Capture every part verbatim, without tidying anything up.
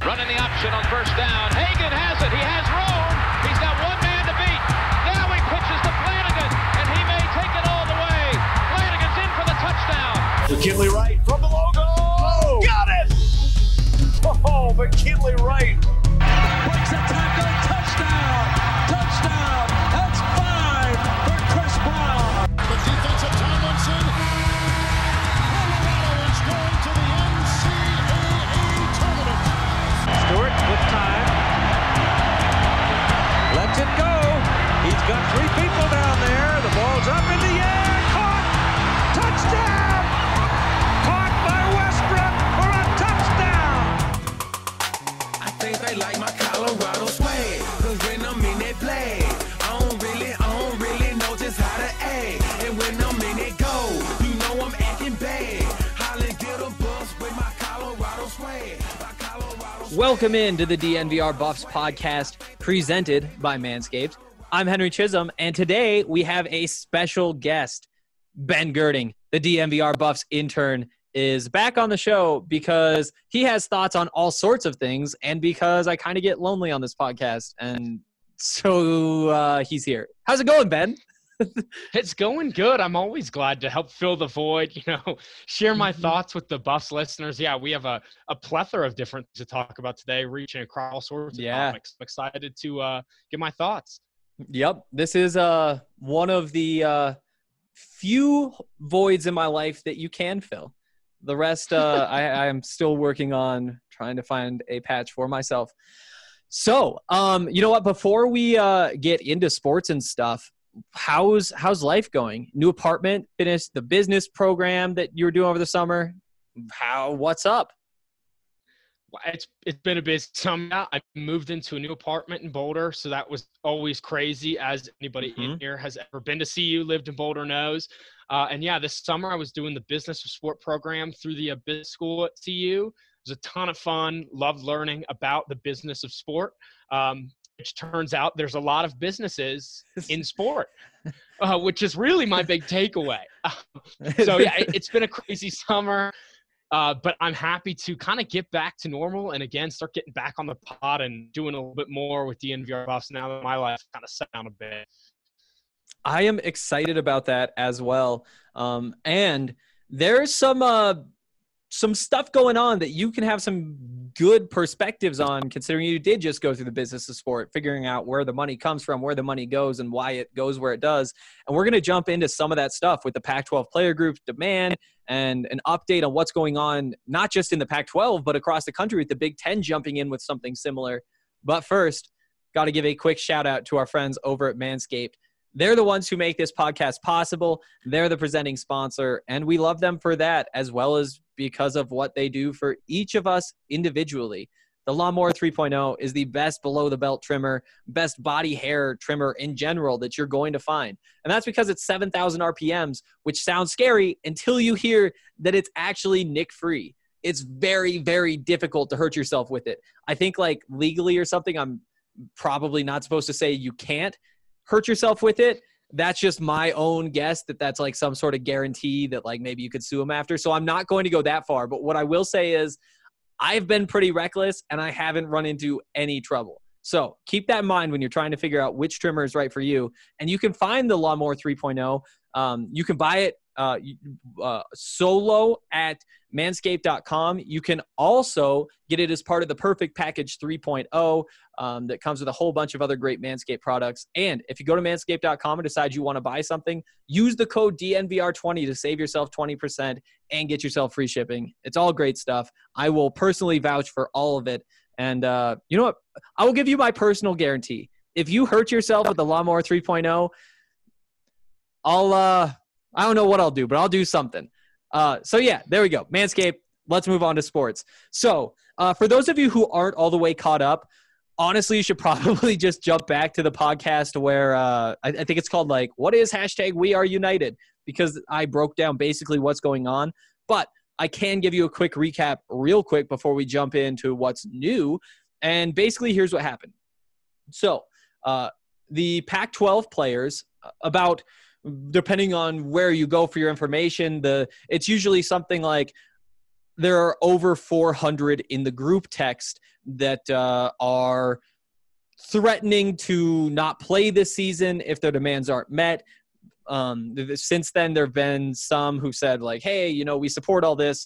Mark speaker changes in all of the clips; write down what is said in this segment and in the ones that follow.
Speaker 1: Running the option on first down. Hagan has it. He has room. He's got one man to beat. Now he pitches to Flanagan, and he may take it all the way. Flanagan's in for the touchdown.
Speaker 2: McKinley Wright from the logo. Oh, got it! Oh, McKinley Wright.
Speaker 3: Breaks a tackle. Touchdown. Touchdown. That's five for Chris Brown.
Speaker 4: The defensive Tomlinson. Colorado is going to the N C double A tournament.
Speaker 3: Stewart with time. Lets it go. He's got three people down there. The ball's up in the air. Caught. Touchdown. Caught by Westbrook for a touchdown.
Speaker 5: I think they like my Colorado swag. Cause when I'm in that play, I don't really, I don't really know just how to act. And when I'm in it go, you know I'm acting bad. Holland get a bus with my Colorado swag. My Colorado swag.
Speaker 6: Welcome in to the D N V R Buffs podcast presented by Manscaped. I'm Henry Chisholm, and today we have a special guest. Ben Girding, the D N V R Buffs intern, is back on the show because he has thoughts on all sorts of things and because I kind of get lonely on this podcast. And so uh, he's here. How's it going, Ben?
Speaker 7: It's going good. I'm always glad to help fill the void, you know, share my thoughts with the Buffs listeners. Yeah, we have a, a plethora of different things to talk about today, reaching across all sorts of
Speaker 6: Yeah.
Speaker 7: topics. I'm excited to uh, get my thoughts.
Speaker 6: Yep. This is uh, one of the uh, few voids in my life that you can fill. The rest, uh, I, I'm still working on trying to find a patch for myself. So, um, you know what? Before we uh, get into sports and stuff, how's how's life going? New apartment, finished the business program that you were doing over the summer. How? What's up?
Speaker 7: Well, It's it's been a busy summer. I moved into a new apartment in Boulder, so that was always crazy, as anybody
Speaker 6: Mhm.
Speaker 7: in here has ever been to C U, lived in Boulder knows. Uh, and yeah, this summer I was doing the business of sport program through the uh, business school at C U. It was a ton of fun. Loved learning about the business of sport. Um, which turns out there's a lot of businesses in sport, uh, which is really my big takeaway. So yeah, it, it's been a crazy summer. Uh, but I'm happy to kind of get back to normal and, again, start getting back on the pod and doing a little bit more with D N V R Buffs now that my life kind of set down a bit.
Speaker 6: I am excited about that as well. Um, and there's some uh, some stuff going on that you can have some good perspectives on, considering you did just go through the business of sport, figuring out where the money comes from, where the money goes, and why it goes where it does. And we're going to jump into some of that stuff with the Pac twelve player group demand and an update on what's going on, not just in the Pac twelve, but across the country with the Big Ten jumping in with something similar. But first, got to give a quick shout out to our friends over at Manscaped. They're the ones who make this podcast possible. They're the presenting sponsor, and we love them for that, as well as because of what they do for each of us individually. The Lawnmower three point oh is the best below-the-belt trimmer, best body hair trimmer in general that you're going to find. And that's because it's seven thousand R P Ms, which sounds scary until you hear that it's actually nick-free. It's very, very difficult to hurt yourself with it. I think, like, legally or something, I'm probably not supposed to say you can't hurt yourself with it. That's just my own guess that that's like some sort of guarantee that like maybe you could sue them after. So I'm not going to go that far. But what I will say is I've been pretty reckless and I haven't run into any trouble. So keep that in mind when you're trying to figure out which trimmer is right for you. And you can find the Lawnmower three point oh. Um, you can buy it uh, uh, solo at manscaped dot com. You can also get it as part of the Perfect Package three point oh um, that comes with a whole bunch of other great Manscaped products. And if you go to manscaped dot com and decide you want to buy something, use the code D N V R twenty to save yourself twenty percent and get yourself free shipping. It's all great stuff. I will personally vouch for all of it. And uh, you know what? I will give you my personal guarantee. If you hurt yourself with the Lawnmower three point oh, I'll uh, I don't know what I'll do, but I'll do something. Uh, so yeah, there we go. Manscaped. Let's move on to sports. So uh, for those of you who aren't all the way caught up, honestly, you should probably just jump back to the podcast where uh, I, I think it's called like, what is hashtag We Are United? Because I broke down basically what's going on. But I can give you a quick recap real quick before we jump into what's new. And basically, here's what happened. So uh, the Pac twelve players, about – depending on where you go for your information, the it's usually something like there are over four hundred in the group text that uh, are threatening to not play this season if their demands aren't met. Um, since then, there have been some who said, like, hey, you know, we support all this.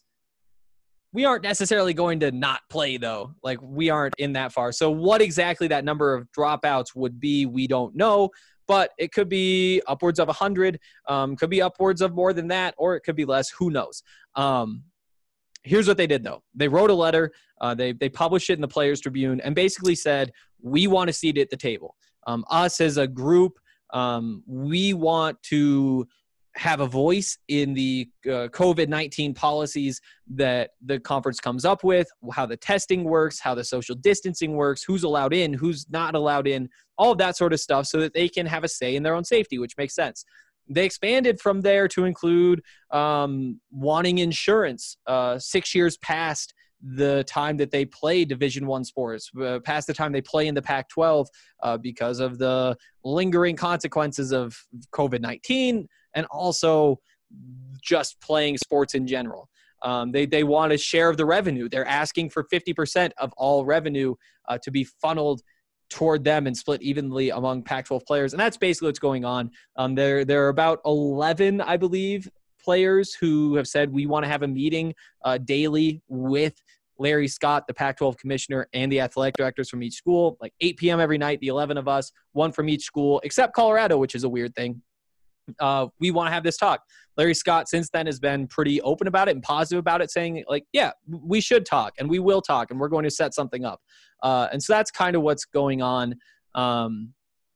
Speaker 6: We aren't necessarily going to not play, though. Like, we aren't in that far. So what exactly that number of dropouts would be, we don't know. But it could be upwards of one hundred, um, could be upwards of more than that, or it could be less. Who knows? Um, here's what they did, though. They wrote a letter. Uh, they, they published it in the Players Tribune and basically said, we want a seat at the table. Um, us as a group, um, we want to have a voice in the uh, COVID nineteen policies that the conference comes up with, how the testing works, how the social distancing works, who's allowed in, who's not allowed in, all of that sort of stuff so that they can have a say in their own safety, which makes sense. They expanded from there to include um, wanting insurance uh, six years past the time that they play Division One sports, uh, past the time they play in the Pac twelve uh, because of the lingering consequences of COVID nineteen and also just playing sports in general. Um, they, they want a share of the revenue. They're asking for fifty percent of all revenue uh, to be funneled toward them and split evenly among Pac twelve players. And that's basically what's going on. Um, there, there are about eleven, I believe, players who have said we want to have a meeting uh, daily with Larry Scott, the Pac twelve commissioner, and the athletic directors from each school, like eight p.m. every night, the eleven of us, one from each school, except Colorado, which is a weird thing. Uh, we want to have this talk. Larry Scott since then has been pretty open about it and positive about it, saying like, yeah, we should talk and we will talk and we're going to set something up. Uh, and so that's kind of what's going on. Um,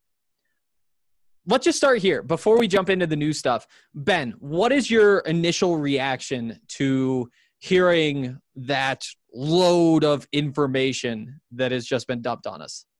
Speaker 6: let's just start here before we jump into the new stuff. Ben, what is your initial reaction to hearing that load of information that has just been dumped on us?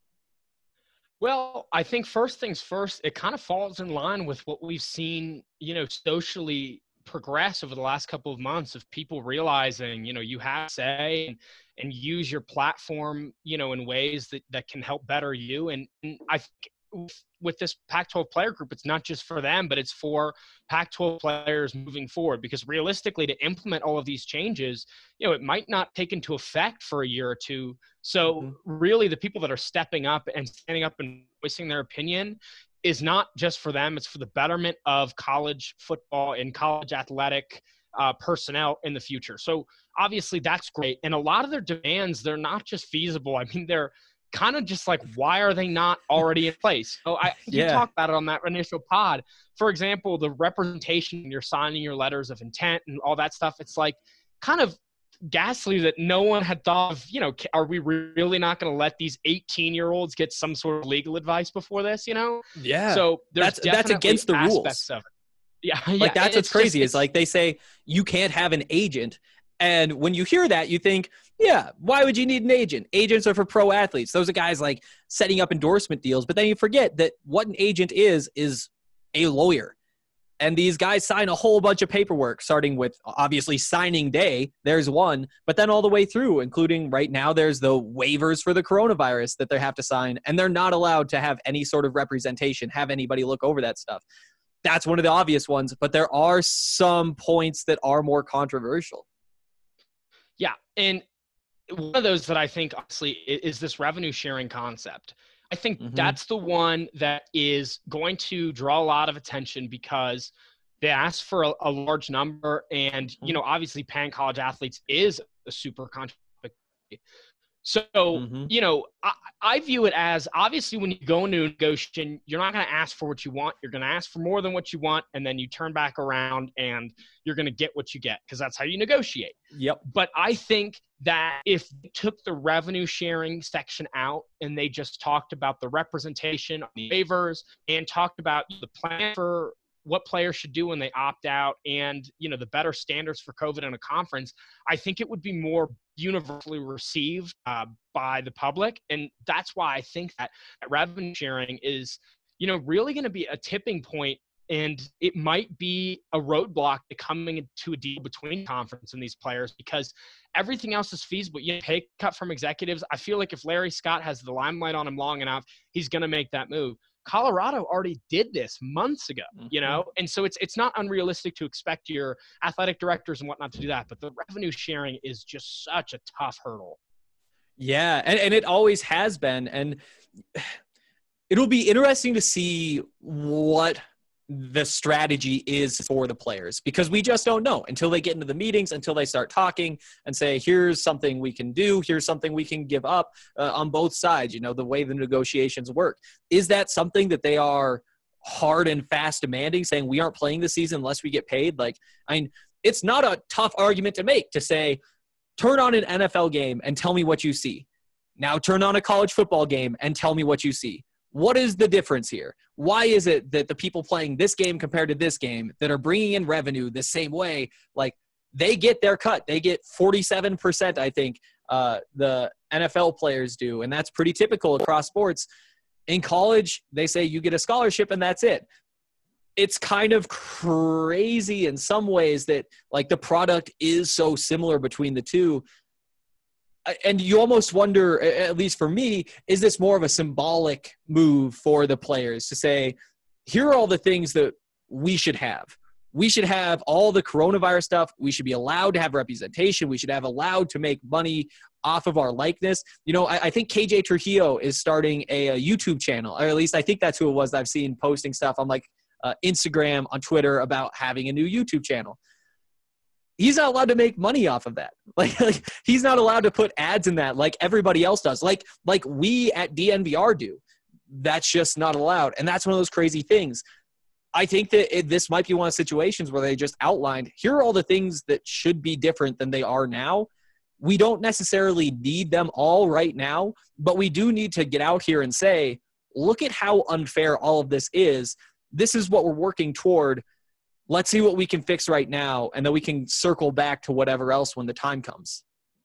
Speaker 7: Well, I think first things first, it kind of falls in line with what we've seen, you know, socially progress over the last couple of months of people realizing, you know, you have to say and, and use your platform, you know, in ways that, that can help better you. And, and I think with, with this Pac twelve player group, it's not just for them, but it's for Pac twelve players moving forward, because realistically to implement all of these changes, you know, it might not take into effect for a year or two. So mm-hmm. really the people that are stepping up and standing up and voicing their opinion is not just for them. It's for the betterment of college football and college athletic uh, personnel in the future. So obviously that's great. And a lot of their demands, they're not just feasible. I mean, they're kind of just like, why are they not already in place? So I, you
Speaker 6: yeah.
Speaker 7: talked about it on that initial pod. For example, the representation, you're signing your letters of intent and all that stuff. It's like kind of ghastly that no one had thought of, you know, are we really not going to let these eighteen year olds get some sort of legal advice before this, you know?
Speaker 6: Yeah.
Speaker 7: So there's
Speaker 6: that's, that's against the rules.
Speaker 7: Of it. Yeah.
Speaker 6: Like
Speaker 7: yeah.
Speaker 6: that's what's
Speaker 7: it's
Speaker 6: crazy
Speaker 7: just,
Speaker 6: is like they say you can't have an agent. And when you hear that, you think, yeah, why would you need an agent? Agents are for pro athletes. Those are guys like setting up endorsement deals. But then you forget that what an agent is, is a lawyer. And these guys sign a whole bunch of paperwork, starting with obviously signing day. There's one, but then all the way through, including right now, there's the waivers for the coronavirus that they have to sign. And they're not allowed to have any sort of representation, have anybody look over that stuff. That's one of the obvious ones. But there are some points that are more controversial.
Speaker 7: Yeah. And one of those that I think honestly is this revenue sharing concept. I think mm-hmm. that's the one that is going to draw a lot of attention because they ask for a, a large number. And, you know, obviously paying college athletes is a super controversial. So, mm-hmm. you know, I, I view it as obviously when you go into a negotiation, you're not going to ask for what you want. You're going to ask for more than what you want. And then you turn back around and you're going to get what you get because that's how you negotiate.
Speaker 6: Yep.
Speaker 7: But I think that if they took the revenue sharing section out and they just talked about the representation on the waivers and talked about the plan for what players should do when they opt out and, you know, the better standards for COVID in a conference, I think it would be more universally received uh, by the public. And that's why I think that, that revenue sharing is, you know, really going to be a tipping point. And it might be a roadblock to coming into a deal between conference and these players because everything else is feasible. You know, pay cut from executives. I feel like if Larry Scott has the limelight on him long enough, he's going to make that move. Colorado already did this months ago,
Speaker 6: Mm-hmm.
Speaker 7: you know? And so it's it's not unrealistic to expect your athletic directors and whatnot to do that. But the revenue sharing is just such a tough hurdle.
Speaker 6: Yeah, and, and it always has been. And it'll be interesting to see what the strategy is for the players, because we just don't know until they get into the meetings, until they start talking and say, here's something we can do, here's something we can give up uh, on both sides, you know, the way the negotiations work. Is that something that they are hard and fast demanding, saying we aren't playing this season unless we get paid? Like, I mean, it's not a tough argument to make to say, turn on an N F L game and tell me what you see. Now turn on a college football game and tell me what you see. What is the difference here? Why is it that the people playing this game compared to this game that are bringing in revenue the same way, like they get their cut? They get forty-seven percent, I think, uh, the N F L players do, and that's pretty typical across sports. In college, they say you get a scholarship and that's it. It's kind of crazy in some ways that like the product is so similar between the two. And you almost wonder, at least for me, is this more of a symbolic move for the players to say, here are all the things that we should have. We should have all the coronavirus stuff. We should be allowed to have representation. We should have allowed to make money off of our likeness. You know, I, I think K J Trujillo is starting a, a YouTube channel, or at least I think that's who it was that I've seen posting stuff on like uh, Instagram, on Twitter about having a new YouTube channel. He's not allowed to make money off of that. Like, like he's not allowed to put ads in that like everybody else does. Like, like we at D N V R do. That's just not allowed. And that's one of those crazy things. I think that it, this might be one of the situations where they just outlined, here are all the things that should be different than they are now. We don't necessarily need them all right now, but we do need to get out here and say, look at how unfair all of this is. This is what we're working toward. Let's see what we can fix right now, and then we can circle back to whatever else when the time comes.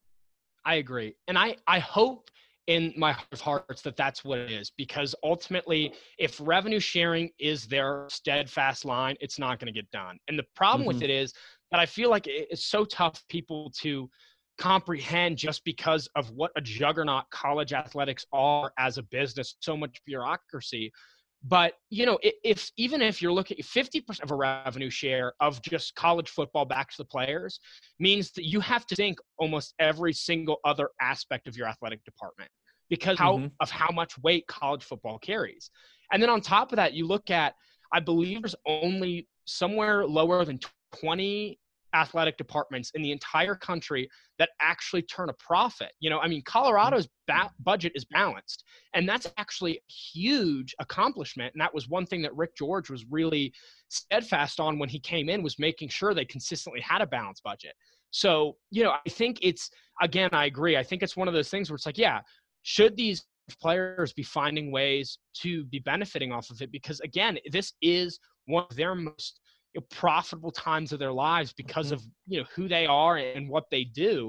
Speaker 7: I agree. And I, I hope in my heart of hearts that that's what it is, because ultimately, if revenue sharing is their steadfast line, it's not going to get done. And the problem
Speaker 6: Mm-hmm.
Speaker 7: with it is that I feel like it's so tough for people to comprehend just because of what a juggernaut college athletics are as a business, so much bureaucracy. But, you know, if even if you're looking at fifty percent of a revenue share of just college football back to the players means that you have to think almost every single other aspect of your athletic department because how,
Speaker 6: Mm-hmm.
Speaker 7: of how much weight college football carries. And then on top of that, you look at, I believe there's only somewhere lower than twenty athletic departments in the entire country that actually turn a profit. You know, I mean, Colorado's ba- budget is balanced, and that's actually a huge accomplishment. And that was one thing that Rick George was really steadfast on when he came in, was making sure they consistently had a balanced budget. So, you know, I think it's, again, I agree. I think it's one of those things where it's like, yeah, should these players be finding ways to be benefiting off of it? Because again, this is one of their most you know, profitable times of their lives because
Speaker 6: Mm-hmm.
Speaker 7: of, you know, who they are and what they do.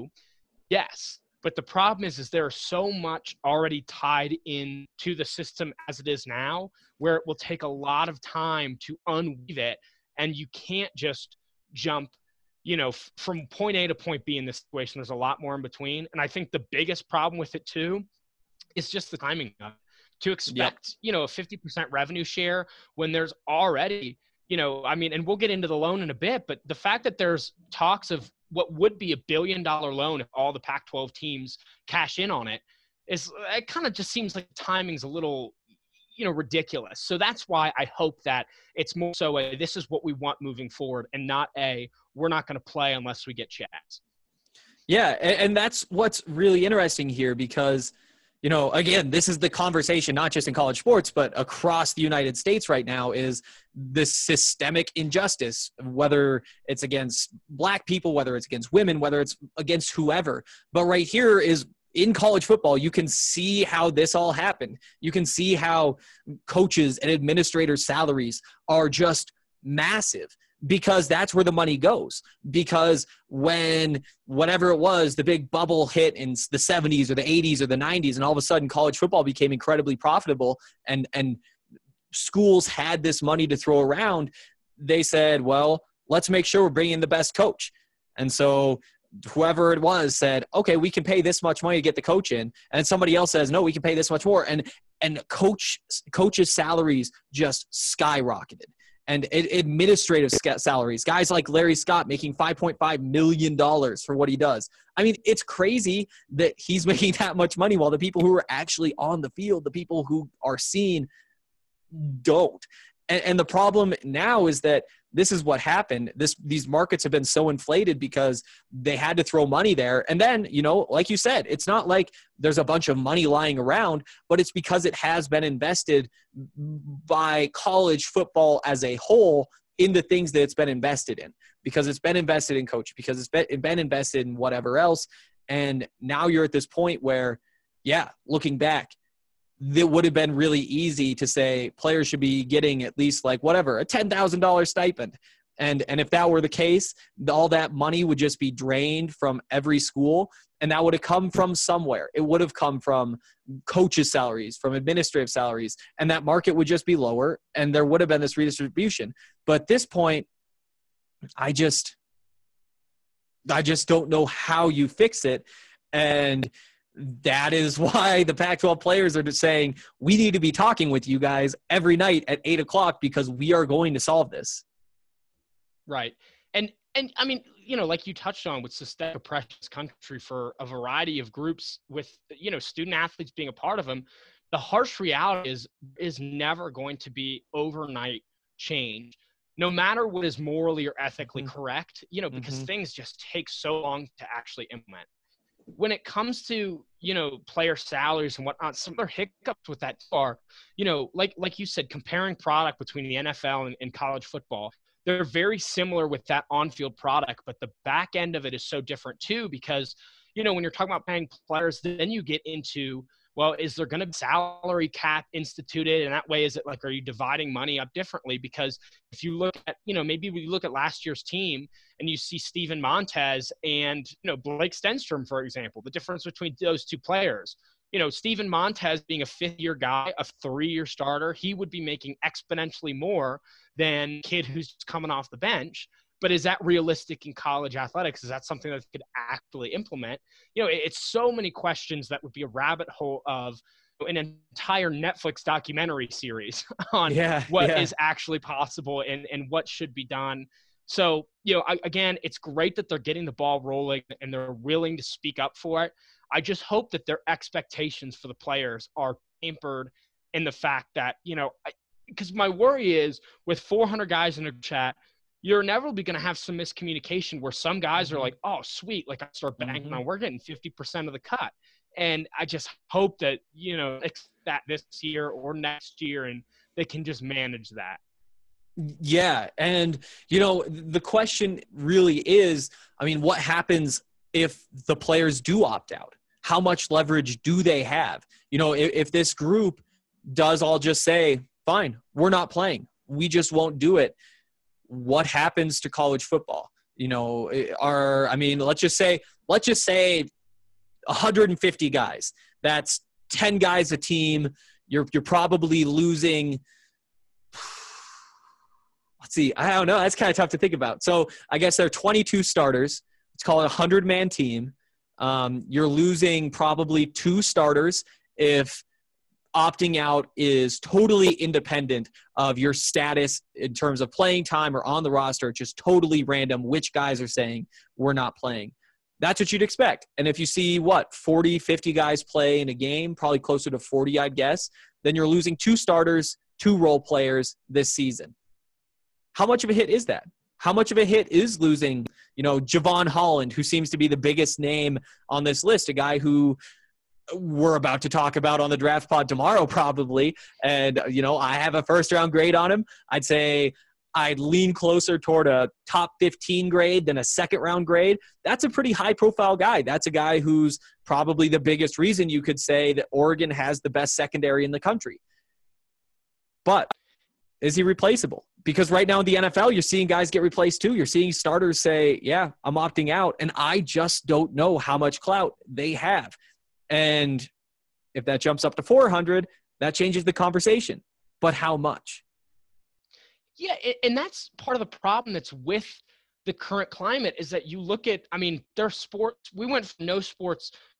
Speaker 7: Yes. But the problem is, is there's so much already tied in to the system as it is now, where it will take a lot of time to unweave it. And you can't just jump, you know, f- from point A to point B in this situation. There's a lot more in between. And I think the biggest problem with it too, is just the timing of it. To expect, yep. you know, a fifty percent revenue share when there's already, you know, I mean, and we'll get into the loan in a bit, but the fact that there's talks of what would be a billion dollar loan if all the Pac twelve teams cash in on it is, it kind of just seems like timing's a little, you know, ridiculous. So that's why I hope that it's more so a, this is what we want moving forward and not a, we're not going to play unless we get checks.
Speaker 6: Yeah. And, and that's what's really interesting here because, you know, again, this is the conversation, not just in college sports, but across the United States right now is this systemic injustice, whether it's against black people, whether it's against women, whether it's against whoever. But right here is in college football, you can see how this all happened. You can see how coaches and administrators' salaries are just massive. Because that's where the money goes. Because when whatever it was, the big bubble hit in the seventies or the eighties or the nineties, and all of a sudden college football became incredibly profitable and, and schools had this money to throw around, they said, well, let's make sure we're bringing in the best coach. And so whoever it was said, okay, we can pay this much money to get the coach in. And somebody else says, no, we can pay this much more. And and coach coaches' salaries just skyrocketed. And administrative salaries, guys like Larry Scott making five point five million dollars for what he does. I mean, it's crazy that he's making that much money while the people who are actually on the field, the people who are seen, don't. And, and the problem now is that this is what happened. This These markets have been so inflated because they had to throw money there. And then, you know, like you said, it's not like there's a bunch of money lying around, but it's because it has been invested by college football as a whole in the things that it's been invested in, because it's been invested in coach, because it's been, it's been invested in whatever else. And now you're at this point where, yeah, looking back, it would have been really easy to say players should be getting at least like whatever, a ten thousand dollars stipend. And, and if that were the case, all that money would just be drained from every school, and that would have come from somewhere. It would have come from coaches' salaries, from administrative salaries, and that market would just be lower, and there would have been this redistribution. But at this point, I just, I just don't know how you fix it. And that is why the Pac twelve players are just saying, we need to be talking with you guys every night at eight o'clock because we are going to solve this.
Speaker 7: Right. And, and I mean, you know, like you touched on with systemic oppression in this country for a variety of groups with, you know, student athletes being a part of them, the harsh reality is, is never going to be overnight change, no matter what is morally or ethically mm-hmm. correct, you know, because mm-hmm. things just take so long to actually implement. When it comes to, you know, player salaries and whatnot, some of their hiccups with that are, you know, like like you said, comparing product between the N F L and, and college football. They're very similar with that on-field product, but the back end of it is so different too, because, you know, when you're talking about paying players, then you get into, well, is there going to be salary cap instituted? And that way, is it like, are you dividing money up differently? Because if you look at, you know, maybe we look at last year's team and you see Steven Montez and, you know, Blake Stenstrom, for example, the difference between those two players. You know, Steven Montez being a fifth-year guy, a three-year starter, he would be making exponentially more than a kid who's just coming off the bench. But is that realistic in college athletics? Is that something that they could actually implement? You know, it's so many questions that would be a rabbit hole of an entire Netflix documentary series on
Speaker 6: yeah,
Speaker 7: what
Speaker 6: yeah.
Speaker 7: is actually possible and, and what should be done. So, you know, I, again, it's great that they're getting the ball rolling and they're willing to speak up for it. I just hope that their expectations for the players are tempered in the fact that, you know, because my worry is with four hundred guys in a chat, you're inevitably going to have some miscommunication where some guys are like, oh, sweet, like I start banking mm-hmm. on, we're getting fifty percent of the cut. And I just hope that, you know, that this year or next year and they can just manage that.
Speaker 6: Yeah. And, you know, the question really is, I mean, what happens if the players do opt out? How much leverage do they have? You know, if, if this group does all just say, fine, we're not playing, we just won't do it, what happens to college football? You know, are, I mean, let's just say, let's just say one hundred fifty guys. That's ten guys a team. You're, you're probably losing, let's see, I don't know. That's kind of tough to think about. So I guess there are twenty-two starters. Let's call it a hundred-man team. Um, you're losing probably two starters if opting out is totally independent of your status in terms of playing time or on the roster. It's just totally random which guys are saying we're not playing. That's what you'd expect. And if you see, what, forty, fifty guys play in a game, probably closer to forty, I'd guess, then you're losing two starters, two role players this season. How much of a hit is that? How much of a hit is losing, you know, Javon Holland, who seems to be the biggest name on this list, a guy who we're about to talk about on the draft pod tomorrow probably. And, you know, I have a first round grade on him. I'd say I'd lean closer toward a top fifteen grade than a second round grade. That's a pretty high profile guy. That's a guy who's probably the biggest reason you could say that Oregon has the best secondary in the country. But is he replaceable? Because right now in the N F L, you're seeing guys get replaced too. You're seeing starters say, yeah, I'm opting out. And I just don't know how much clout they have. And if that jumps up to four hundred, that changes the conversation. But how much?
Speaker 7: Yeah, and that's part of the problem that's with the current climate is that you look at, I mean, their sports, we went from no sports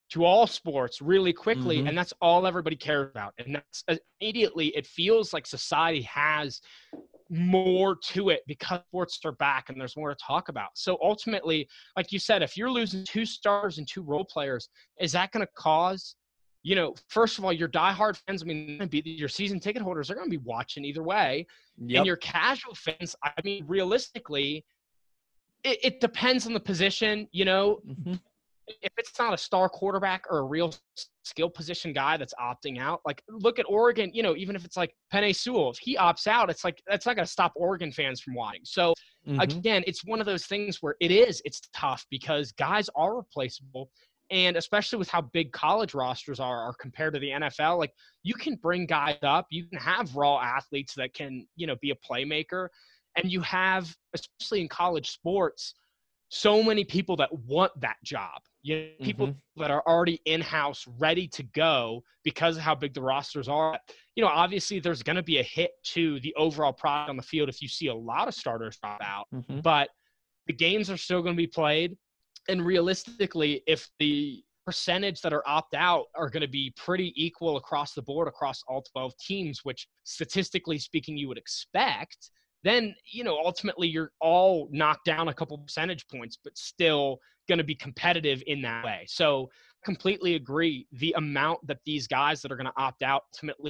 Speaker 7: to all sports really quickly.
Speaker 6: Mhm.
Speaker 7: And that's all everybody cares about. And that's immediately, it feels like society has more to it because sports are back and there's more to talk about. So ultimately, like you said, if you're losing two stars and two role players, is that going to cause, you know, first of all, your diehard fans, I mean, your season ticket holders are going to be watching either way.
Speaker 6: Yep.
Speaker 7: And your casual fans, I mean, realistically, it, it depends on the position, you know.
Speaker 6: Mhm.
Speaker 7: If it's not a star quarterback or a real skill position guy that's opting out, like look at Oregon, you know, even if it's like Penei Sewell, if he opts out, it's like, that's not going to stop Oregon fans from watching. So
Speaker 6: Mhm.
Speaker 7: again, it's one of those things where it is, it's tough because guys are replaceable. And especially with how big college rosters are, are compared to the N F L, like you can bring guys up, you can have raw athletes that can, you know, be a playmaker. And you have, especially in college sports, so many people that want that job. You know, people
Speaker 6: Mhm.
Speaker 7: that are already in-house, ready to go because of how big the rosters are. You know, obviously there's going to be a hit to the overall product on the field if you see a lot of starters drop out,
Speaker 6: Mhm.
Speaker 7: but the games are still going to be played. And realistically, if the percentage that are opt out are going to be pretty equal across the board, across all twelve teams, which statistically speaking, you would expect, then, you know, ultimately you're all knocked down a couple percentage points, but still going to be competitive in that way. So completely agree. The amount that these guys that are going to opt out ultimately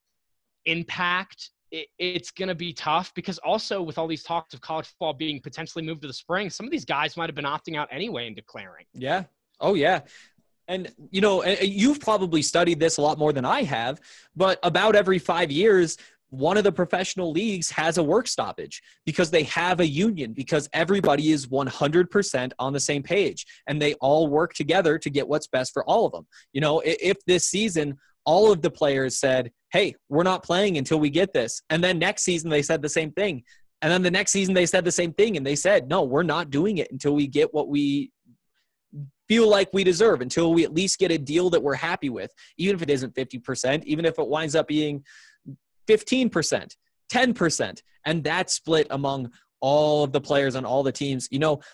Speaker 7: impact, it, it's going to be tough because also with all these talks of college football being potentially moved to the spring, some of these guys might have been opting out anyway and declaring.
Speaker 6: Yeah. Oh, yeah. And, you know, you've probably studied this a lot more than I have, but about every five years, one of the professional leagues has a work stoppage because they have a union, because everybody is one hundred percent on the same page and they all work together to get what's best for all of them. You know, if this season, all of the players said, hey, we're not playing until we get this. And then next season, they said the same thing. And then the next season, they said the same thing. And they said, no, we're not doing it until we get what we feel like we deserve, until we at least get a deal that we're happy with, even if it isn't fifty percent, even if it winds up being fifteen percent, ten percent, and that's split among all of the players on all the teams. You know,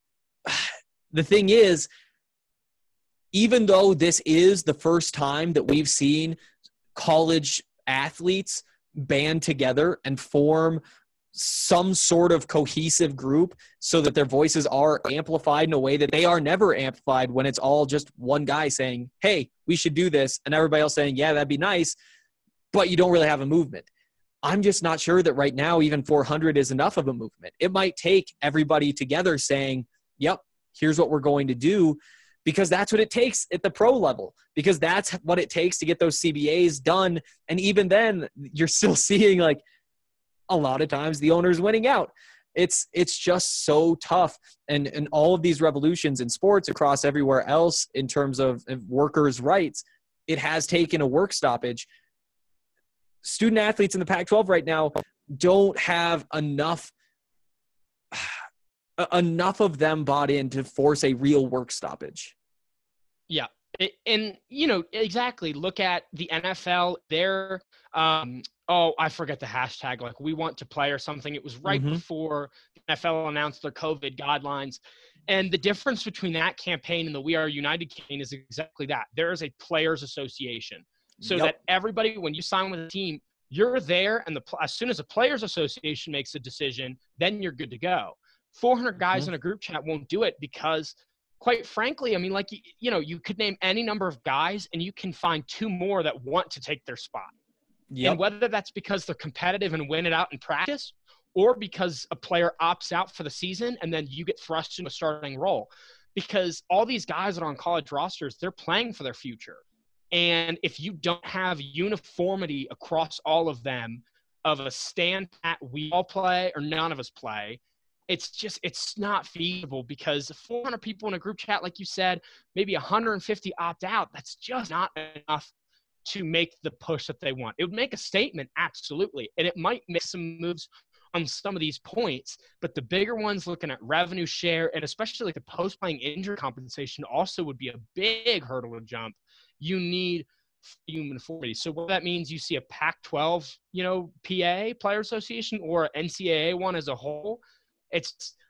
Speaker 6: the thing is, even though this is the first time that we've seen college athletes band together and form some sort of cohesive group so that their voices are amplified in a way that they are never amplified when it's all just one guy saying, hey, we should do this, and everybody else saying, yeah, that'd be nice, but you don't really have a movement. I'm just not sure that right now even four hundred is enough of a movement. It might take everybody together saying, yep, here's what we're going to do, because that's what it takes at the pro level, because that's what it takes to get those C B As done. And even then, you're still seeing, like, a lot of times the owner's winning out. It's it's just so tough. And, and all of these revolutions in sports across everywhere else in terms of workers' rights, it has taken a work stoppage. Student athletes in the Pac twelve right now don't have enough enough of them bought in to force a real work stoppage.
Speaker 7: Yeah. It, and, you know, exactly. Look at the N F L. They're, um, oh, I forget the hashtag, like we want to play or something. It was right
Speaker 6: Mhm.
Speaker 7: before the N F L announced their COVID guidelines. And the difference between that campaign and the We Are United campaign is exactly that. There is a players association. So
Speaker 6: Yep.
Speaker 7: that everybody, when you sign with a team, you're there, and the as soon as the players association makes a decision, then you're good to go. four hundred guys
Speaker 6: Mhm.
Speaker 7: in a group chat won't do it because, quite frankly, I mean, like, you, you know, you could name any number of guys and you can find two more that want to take their spot.
Speaker 6: Yep.
Speaker 7: And whether that's because they're competitive and win it out in practice, or because a player opts out for the season and then you get thrust into a starting role. Because all these guys that are on college rosters, they're playing for their future. And if you don't have uniformity across all of them of a stand at we all play or none of us play, it's just, it's not feasible, because four hundred people in a group chat, like you said, maybe one hundred fifty opt out. That's just not enough to make the push that they want. It would make a statement, absolutely. And it might make some moves on some of these points, but the bigger ones, looking at revenue share and especially like the post-playing injury compensation, also would be a big hurdle to jump. You need uniformity. So what that means, you see a Pac twelve, you know, P A, Player Association, or N C double A one as a whole, it's,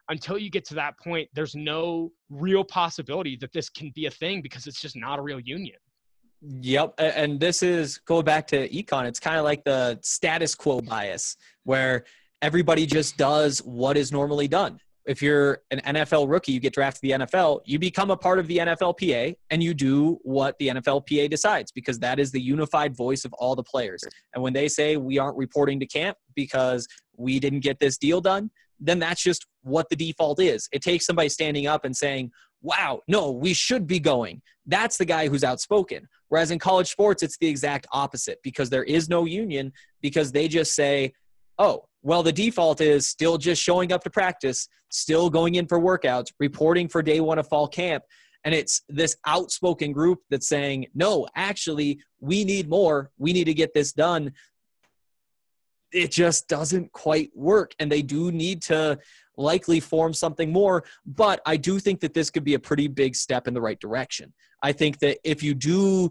Speaker 7: until you get to that point, there's no real possibility that this can be a thing because it's just not a real union.
Speaker 6: Yep. And this is going back to econ. It's kind of like the status quo bias where everybody just does what is normally done. If you're an N F L rookie, you get drafted to the N F L, you become a part of the N F L P A and you do what the N F L P A decides because that is the unified voice of all the players. And when they say we aren't reporting to camp because we didn't get this deal done, then that's just what the default is. It takes somebody standing up and saying, wow, no, we should be going. That's the guy who's outspoken. Whereas in college sports, it's the exact opposite because there is no union because they just say, oh, well, the default is still just showing up to practice, still going in for workouts, reporting for day one of fall camp. And it's this outspoken group that's saying, no, actually, we need more. We need to get this done. It just doesn't quite work. And they do need to likely form something more. But I do think that this could be a pretty big step in the right direction. I think that if you do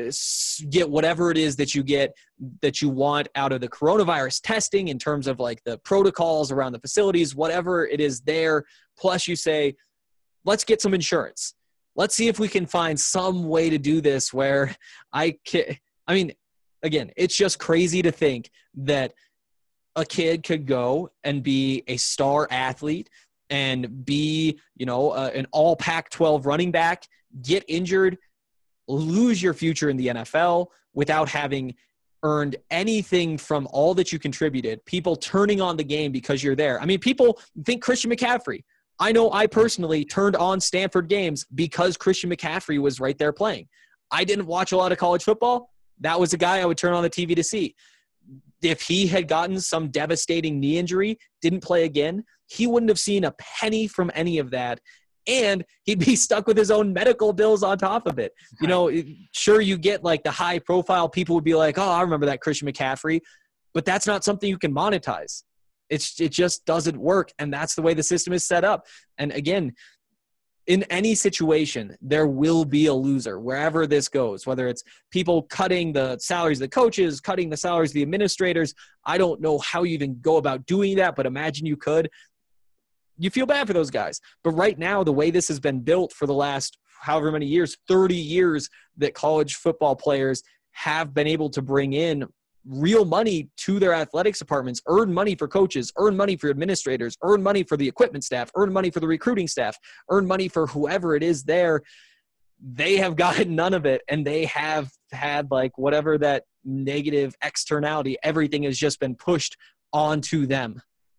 Speaker 6: get whatever it is that you get, that you want out of the coronavirus testing in terms of like the protocols around the facilities, whatever it is there, plus you say, let's get some insurance. Let's see if we can find some way to do this where I can, I mean, again, it's just crazy to think that a kid could go and be a star athlete and be, you know, uh, an all Pac twelve running back, get injured, lose your future in the N F L without having earned anything from all that you contributed, people turning on the game because you're there. I mean, people think Christian McCaffrey. I know I personally turned on Stanford games because Christian McCaffrey was right there playing. I didn't watch a lot of college football. That was a guy I would turn on the T V to see. If he had gotten some devastating knee injury, didn't play again, he wouldn't have seen a penny from any of that. And he'd be stuck with his own medical bills on top of it. You know, sure, you get like the high profile people would be like, oh, I remember that Christian McCaffrey, but that's not something you can monetize. It's, it just doesn't work. And that's the way the system is set up. And again, in any situation, there will be a loser wherever this goes, whether it's people cutting the salaries of the coaches, cutting the salaries of the administrators. I don't know how you even go about doing that, but imagine you could. You feel bad for those guys. But right now, the way this has been built for the last however many years, thirty years, that college football players have been able to bring in real money to their athletics departments, earn money for coaches, earn money for administrators, earn money for the equipment staff, earn money for the recruiting staff, earn money for whoever it is there. They have gotten none of it, and they have had like whatever that negative externality, everything has just been pushed onto them.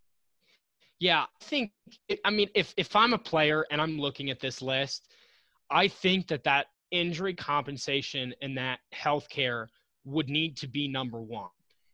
Speaker 7: Yeah, I think, I mean, if, if I'm a player and I'm looking at this list, I think that that injury compensation and that healthcare would need to be number one,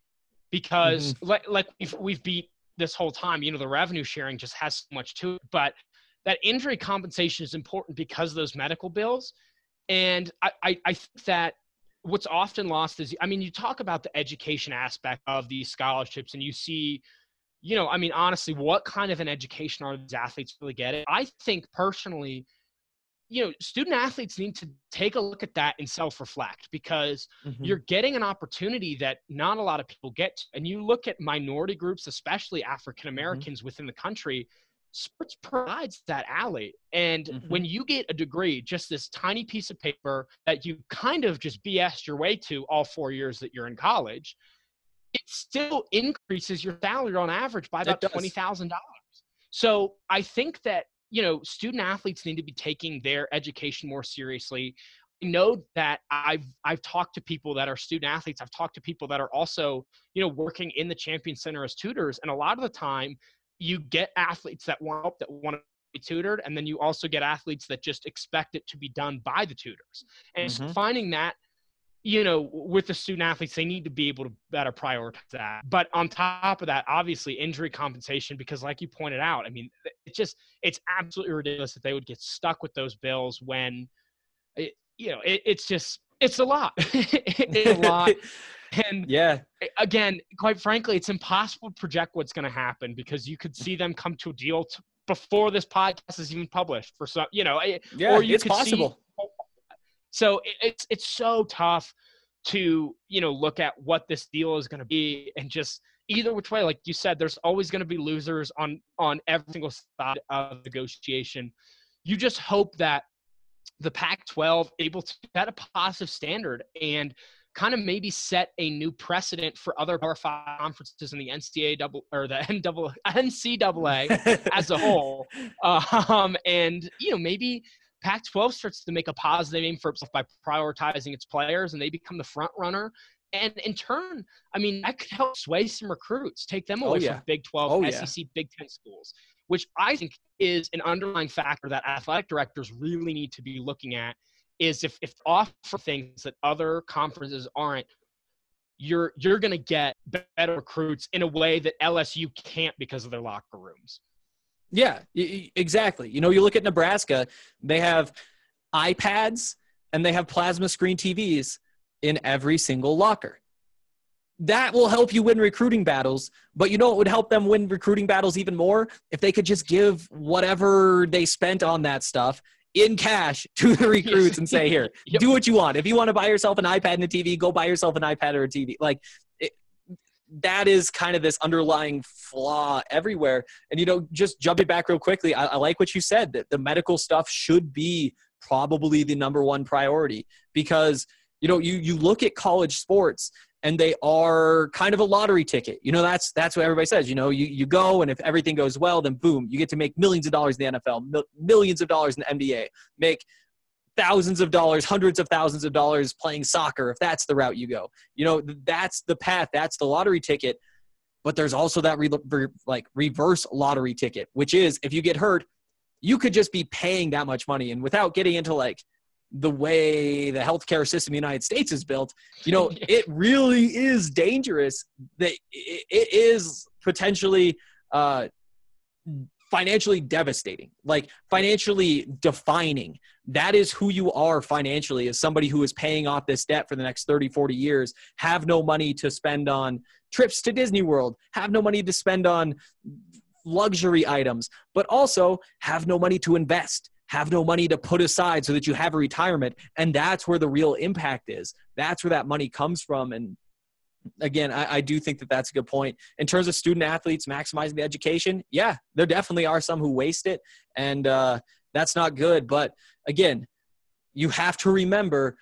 Speaker 7: because mm-hmm. like, like we've, we've beat this whole time, you know, the revenue sharing just has so much to it, but that injury compensation is important because of those medical bills. And I, I, I think that what's often lost is, I mean, you talk about the education aspect of these scholarships and you see, you know, I mean, honestly, what kind of an education are these athletes really getting? I think personally, you know, student athletes need to take a look at that and self-reflect, because mm-hmm. you're getting an opportunity that not a lot of people get to. And you look at minority groups, especially African Americans mm-hmm. within the country, sports provides that alley. And mm-hmm. when you get a degree, just this tiny piece of paper that you kind of just B S'd your way to all four years that you're in college, it still increases your salary on average by about twenty thousand dollars. So I think that, you know, student athletes need to be taking their education more seriously. I know that I've, I've talked to people that are student athletes. I've talked to people that are also, you know, working in the Champion Center as tutors. And a lot of the time you get athletes that want help, that want to be tutored. And then you also get athletes that just expect it to be done by the tutors. And mm-hmm. so finding that, you know, with the student athletes, they need to be able to better prioritize that. But on top of that, obviously injury compensation, because like you pointed out, I mean, it's just, it's absolutely ridiculous that they would get stuck with those bills when, it, you know, it, it's just, it's a lot. It's a lot. And
Speaker 6: yeah,
Speaker 7: again, quite frankly, it's impossible to project what's going to happen, because you could see them come to a deal to, before this podcast is even published for some, you know,
Speaker 6: yeah,
Speaker 7: or you
Speaker 6: it's
Speaker 7: could
Speaker 6: possible.
Speaker 7: See, So it's it's so tough to, you know, look at what this deal is going to be and just either which way, like you said, there's always going to be losers on on every single side of negotiation. You just hope that the Pac twelve able to set a positive standard and kind of maybe set a new precedent for other Power Five conferences in the N C A A double or the N C double A as a whole. Um, and, you know, maybe Pac twelve starts to make a positive name for itself by prioritizing its players, and they become the front runner. And in turn, I mean, that could help sway some recruits, take them away
Speaker 6: oh, yeah.
Speaker 7: from Big twelve,
Speaker 6: oh,
Speaker 7: S E C, yeah. Big Ten schools, which I think is an underlying factor that athletic directors really need to be looking at. Is if if offer things that other conferences aren't, you're you're going to get better recruits in a way that L S U can't because of their locker rooms.
Speaker 6: Yeah, exactly. You know, you look at Nebraska, they have iPads and they have plasma screen T Vs in every single locker. That will help you win recruiting battles, but you know what would help them win recruiting battles even more? If they could just give whatever they spent on that stuff in cash to the recruits and say, here, yep. do what you want. If you want to buy yourself an iPad and a T V, go buy yourself an iPad or a T V. Like, it, that is kind of this underlying flaw everywhere. And, you know, just jumping back real quickly, I, I like what you said, that the medical stuff should be probably the number one priority because, you know, you, you look at college sports and they are kind of a lottery ticket. You know, that's that's what everybody says. You know, you, you go, and if everything goes well, then boom, you get to make millions of dollars in the N F L, mil- millions of dollars in the N B A, make thousands of dollars, hundreds of thousands of dollars playing soccer, if that's the route you go. You know, that's the path. That's the lottery ticket. But there's also that re- re- like reverse lottery ticket, which is if you get hurt, you could just be paying that much money. And without getting into like the way the healthcare system in the United States is built, you know, it really is dangerous. That it, it is potentially uh, financially devastating, like financially defining. That is who you are financially, as somebody who is paying off this debt for the next thirty, forty years, have no money to spend on trips to Disney World, have no money to spend on luxury items, but also have no money to invest, have no money to put aside so that you have a retirement. And that's where the real impact is. That's where that money comes from. And again, I, I do think that that's a good point. In terms of student athletes maximizing the education, yeah, there definitely are some who waste it, and uh, that's not good. But again, you have to remember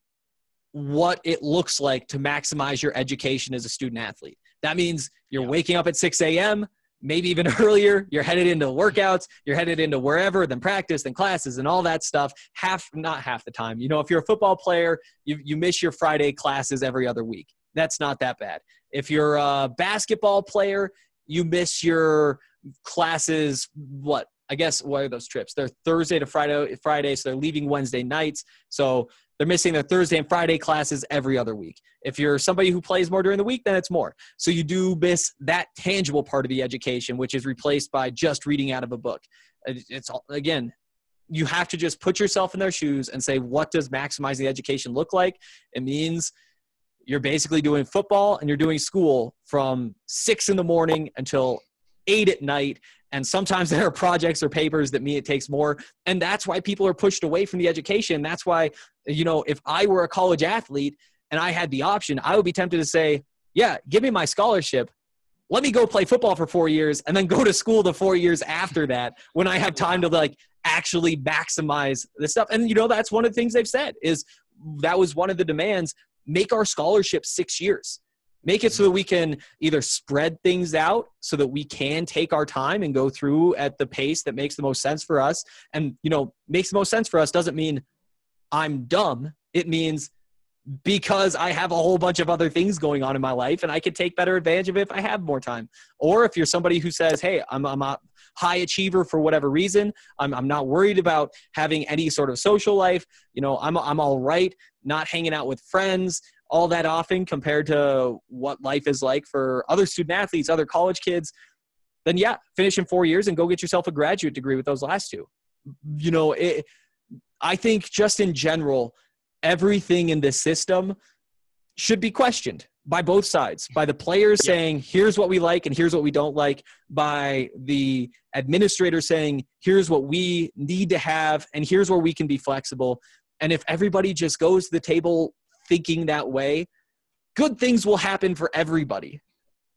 Speaker 6: what it looks like to maximize your education as a student athlete. That means you're waking up at six a.m., maybe even earlier. You're headed into workouts. You're headed into wherever, then practice, then classes, and all that stuff. Half, not half the time. You know, if you're a football player, you you miss your Friday classes every other week. That's not that bad. If you're a basketball player, you miss your classes, what? I guess, what are those trips? They're Thursday to Friday, Friday, so they're leaving Wednesday nights. So they're missing their Thursday and Friday classes every other week. If you're somebody who plays more during the week, then it's more. So you do miss that tangible part of the education, which is replaced by just reading out of a book. It's, again, you have to just put yourself in their shoes and say, what does maximizing the education look like? It means you're basically doing football and you're doing school from six in the morning until eight at night. And sometimes there are projects or papers that mean it takes more. And that's why people are pushed away from the education. That's why, you know, if I were a college athlete and I had the option, I would be tempted to say, yeah, give me my scholarship. Let me go play football for four years and then go to school the four years after that when I have time to like actually maximize this stuff. And, you know, that's one of the things they've said is that was one of the demands. Make our scholarship six years. Make it so that we can either spread things out so that we can take our time and go through at the pace that makes the most sense for us. And, you know, makes the most sense for us doesn't mean I'm dumb. It means because I have a whole bunch of other things going on in my life and I could take better advantage of it if I have more time. Or if you're somebody who says, hey, I'm, I'm a high achiever for whatever reason. I'm, I'm not worried about having any sort of social life. You know, I'm, I'm all right not hanging out with friends all that often compared to what life is like for other student athletes, other college kids, then yeah, finish in four years and go get yourself a graduate degree with those last two. You know, it, I think just in general, everything in this system should be questioned by both sides, by the players yeah. saying, here's what we like and here's what we don't like, by the administrator saying, here's what we need to have and here's where we can be flexible. And if everybody just goes to the table thinking that way, good things will happen for everybody.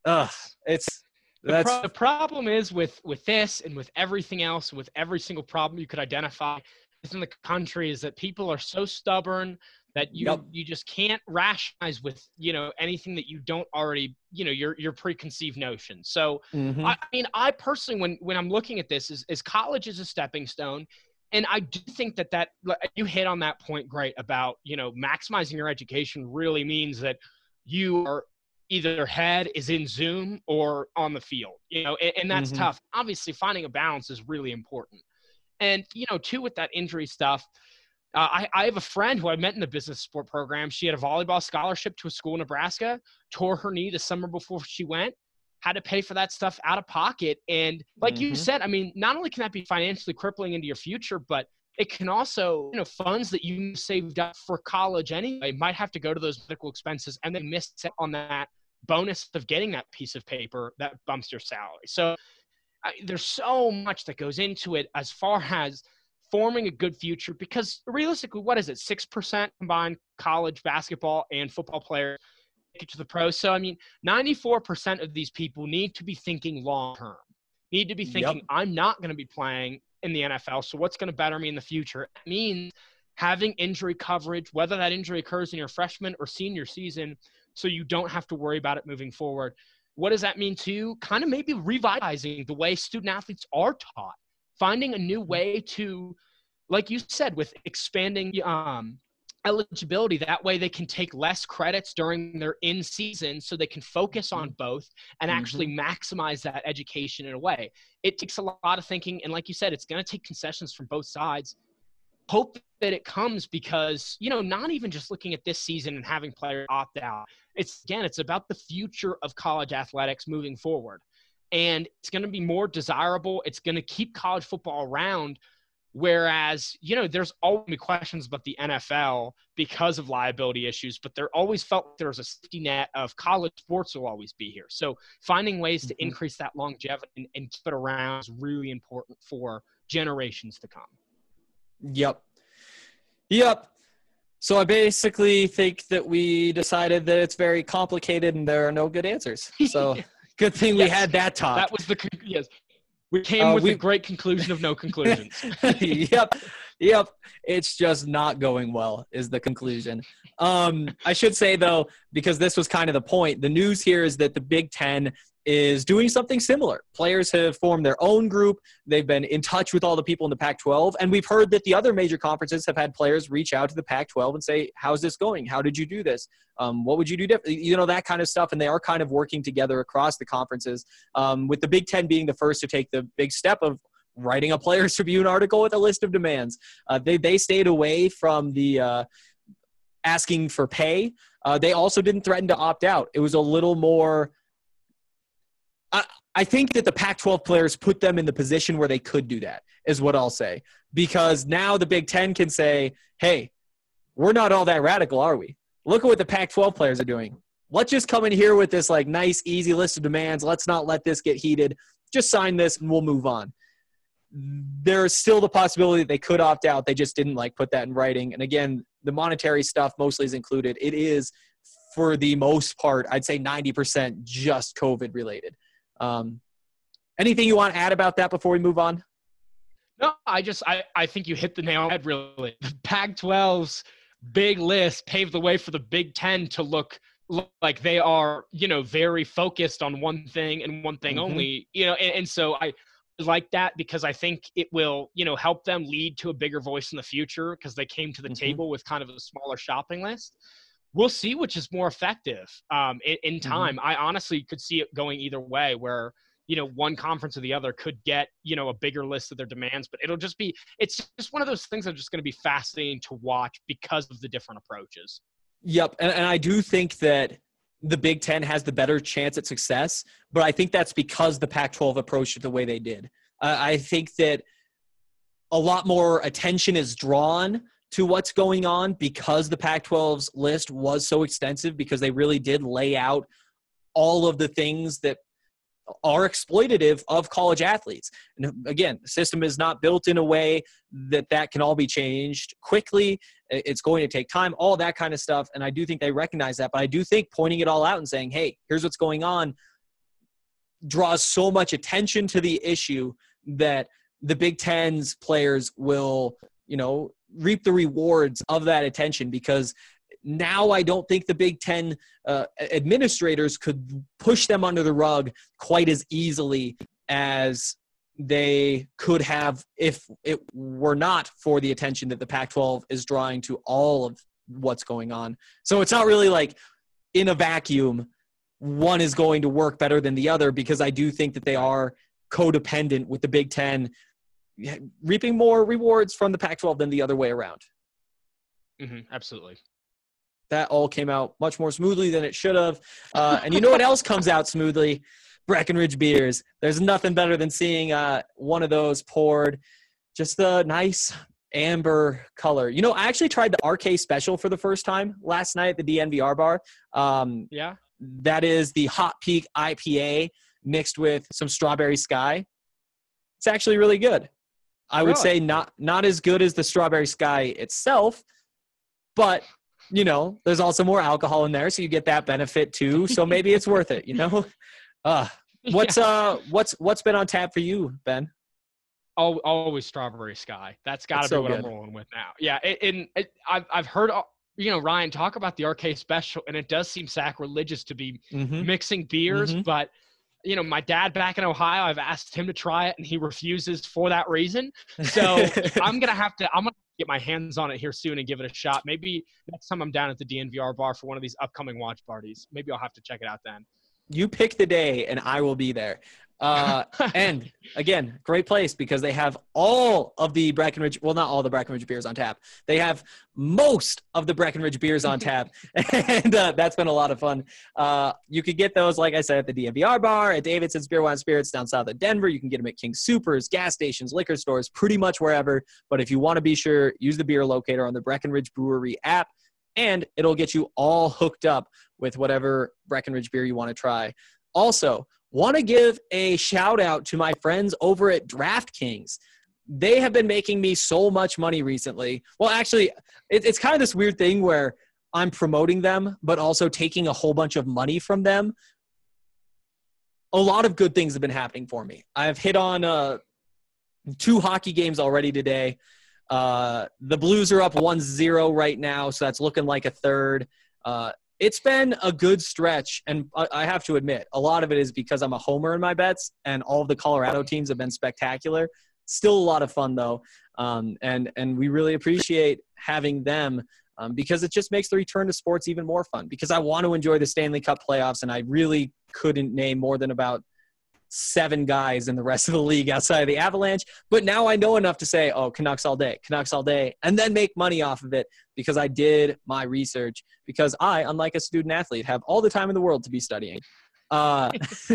Speaker 6: Ugh, it's
Speaker 7: The,
Speaker 6: that's
Speaker 7: pro- the problem is with with this and with everything else, with every single problem you could identify in the country, is that people are so stubborn that you
Speaker 6: Yep.
Speaker 7: you just can't rationalize with, you know, anything that you don't already, you know, your your preconceived notions. So
Speaker 6: Mhm.
Speaker 7: I, I mean, I personally, when when I'm looking at this, is is college is a stepping stone. And I do think that that you hit on that point great about, you know, maximizing your education really means that you are either head is in Zoom or on the field, you know, and, and that's
Speaker 6: Mhm.
Speaker 7: tough. Obviously, finding a balance is really important. And, you know, too, with that injury stuff, uh, I, I have a friend who I met in the business sport program. She had a volleyball scholarship to a school in Nebraska, tore her knee the summer before she went, had to pay for that stuff out of pocket. And like you
Speaker 6: Mhm.
Speaker 7: said, I mean, not only can that be financially crippling into your future, but it can also, you know, funds that you saved up for college anyway might have to go to those medical expenses, and they miss on that bonus of getting that piece of paper that bumps your salary. So I, there's so much that goes into it as far as forming a good future, because realistically, what is it? six percent combined college basketball and football players make it to the pros. So, I mean, ninety-four percent of these people need to be thinking long-term, need to be thinking,
Speaker 6: Yep.
Speaker 7: I'm not going to be playing in the N F L. So what's going to better me in the future? It means having injury coverage, whether that injury occurs in your freshman or senior season, so you don't have to worry about it moving forward. What does that mean too? Kind of maybe revitalizing the way student athletes are taught, finding a new way to, like you said, with expanding um, eligibility. That way they can take less credits during their in season so they can focus on both and actually maximize that education in a way. It takes a lot of thinking. And like you said, it's going to take concessions from both sides. Hope that it comes, because, you know, not even just looking at this season and having players opt out. It's, again, it's about the future of college athletics moving forward. And it's going to be more desirable. It's going to keep college football around. Whereas, you know, there's always be questions about the N F L because of liability issues, but there always felt there was a safety net of college sports will always be here. So finding ways to
Speaker 6: Mhm.
Speaker 7: increase that longevity and, and keep it around is really important for generations to come.
Speaker 6: Yep. Yep. So I basically think that we decided that it's very complicated and there are no good answers. So good thing we
Speaker 7: Yes.
Speaker 6: had that talk.
Speaker 7: That was the con- yes. We came
Speaker 6: Uh,
Speaker 7: with
Speaker 6: we-
Speaker 7: a great conclusion of no conclusions.
Speaker 6: Yep. Yep. It's just not going well is the conclusion. Um, I should say, though, because this was kind of the point, the news here is that the Big Ten is doing something similar. Players have formed their own group. They've been in touch with all the people in the Pac twelve. And we've heard that the other major conferences have had players reach out to the Pac twelve and say, how's this going? How did you do this? Um, what would you do differently? You know, that kind of stuff. And they are kind of working together across the conferences, um, with the Big Ten being the first to take the big step of writing a Players Tribune article with a list of demands. Uh, they, they stayed away from the uh, asking for pay. Uh, they also didn't threaten to opt out. It was a little more – I, I think that the Pac twelve players put them in the position where they could do that, is what I'll say. Because now the Big Ten can say, hey, we're not all that radical, are we? Look at what the Pac twelve players are doing. Let's just come in here with this like nice, easy list of demands. Let's not let this get heated. Just sign this and we'll move on. There's still the possibility that they could opt out. They just didn't like put that in writing. And again, the monetary stuff mostly is included. It is, for the most part, I'd say ninety percent just COVID related. Um, anything you want to add about that before we move on?
Speaker 7: No, I just I, I think you hit the nail on the head, really. The Pac twelve's big list paved the way for the Big Ten to look, look like they are, you know, very focused on one thing and one thing
Speaker 6: Mhm.
Speaker 7: only, you know, and, and so I like that because I think it will, you know, help them lead to a bigger voice in the future because they came to the
Speaker 6: Mhm.
Speaker 7: table with kind of a smaller shopping list. We'll see which is more effective um, in, in time. I honestly could see it going either way where, you know, one conference or the other could get, you know, a bigger list of their demands, but it'll just be, it's just one of those things that are just going to be fascinating to watch because of the different approaches.
Speaker 6: Yep. And, and I do think that the Big Ten has the better chance at success, but I think that's because the Pac twelve approached it the way they did. Uh, I think that a lot more attention is drawn to what's going on because the Pac twelve's list was so extensive, because they really did lay out all of the things that are exploitative of college athletes. And again, the system is not built in a way that that can all be changed quickly. It's going to take time, all that kind of stuff. And I do think they recognize that, but I do think pointing it all out and saying, hey, here's what's going on, draws so much attention to the issue that the Big Ten's players will, you know, reap the rewards of that attention, because now I don't think the Big Ten uh, administrators could push them under the rug quite as easily as they could have if it were not for the attention that the Pac twelve is drawing to all of what's going on. So it's not really like in a vacuum, one is going to work better than the other, because I do think that they are codependent with the Big Ten reaping more rewards from the Pac twelve than the other way around.
Speaker 7: Mm-hmm, absolutely.
Speaker 6: That all came out much more smoothly than it should have. Uh, and you know what else comes out smoothly? Breckenridge beers. There's nothing better than seeing uh, one of those poured. Just a nice amber color. You know, I actually tried the R K Special for the first time last night at the D N V R bar. Um,
Speaker 7: yeah.
Speaker 6: That is the Hot Peak I P A mixed with some Strawberry Sky. It's actually really good. I
Speaker 7: really?
Speaker 6: would say not not as good as the Strawberry Sky itself, but you know, there's also more alcohol in there, so you get that benefit too. So maybe it's worth it, you know? Uh, what's
Speaker 7: yeah.
Speaker 6: uh what's what's been on tap for you, Ben?
Speaker 7: Oh, always Strawberry Sky. That's got to be
Speaker 6: so
Speaker 7: what
Speaker 6: good.
Speaker 7: I'm rolling with now. Yeah, it, and it, I've I've heard you know Ryan talk about the R K Special, and it does seem sacrilegious to be
Speaker 6: Mm-hmm.
Speaker 7: mixing beers,
Speaker 6: Mm-hmm.
Speaker 7: but you know, my dad back in Ohio, I've asked him to try it, and he refuses for that reason. So I'm gonna have to. I'm gonna get my hands on it here soon and give it a shot. Maybe next time I'm down at the D N V R bar for one of these upcoming watch parties, maybe I'll have to check it out then.
Speaker 6: You pick the day, and I will be there. Uh, and again, great place because they have all of the Breckenridge, well, not all the Breckenridge beers on tap. They have most of the Breckenridge beers on tap. and uh, that's been a lot of fun. Uh, you could get those, like I said, at the D N V R bar, at Davidson's Beer, Wine, Spirits down south of Denver. You can get them at King Soopers, gas stations, liquor stores, pretty much wherever. But if you want to be sure, use the beer locator on the Breckenridge Brewery app, and it'll get you all hooked up with whatever Breckenridge beer you want to try. Also, want to give a shout out to my friends over at DraftKings. They have been making me so much money recently. Well, actually, it, it's kind of this weird thing where I'm promoting them, but also taking a whole bunch of money from them. A lot of good things have been happening for me. I've hit on uh, two hockey games already today. Uh, the Blues are up one zero right now, so that's looking like a third. Uh, It's been a good stretch, and I have to admit, a lot of it is because I'm a homer in my bets, and all of the Colorado teams have been spectacular. Still a lot of fun, though, um, and and we really appreciate having them um, because it just makes the return to sports even more fun, because I want to enjoy the Stanley Cup playoffs, and I really couldn't name more than about seven guys in the rest of the league outside of the Avalanche. But now I know enough to say, oh, Canucks all day, Canucks all day, and then make money off of it because I did my research, because I, unlike a student athlete, have all the time in the world to be studying. Uh,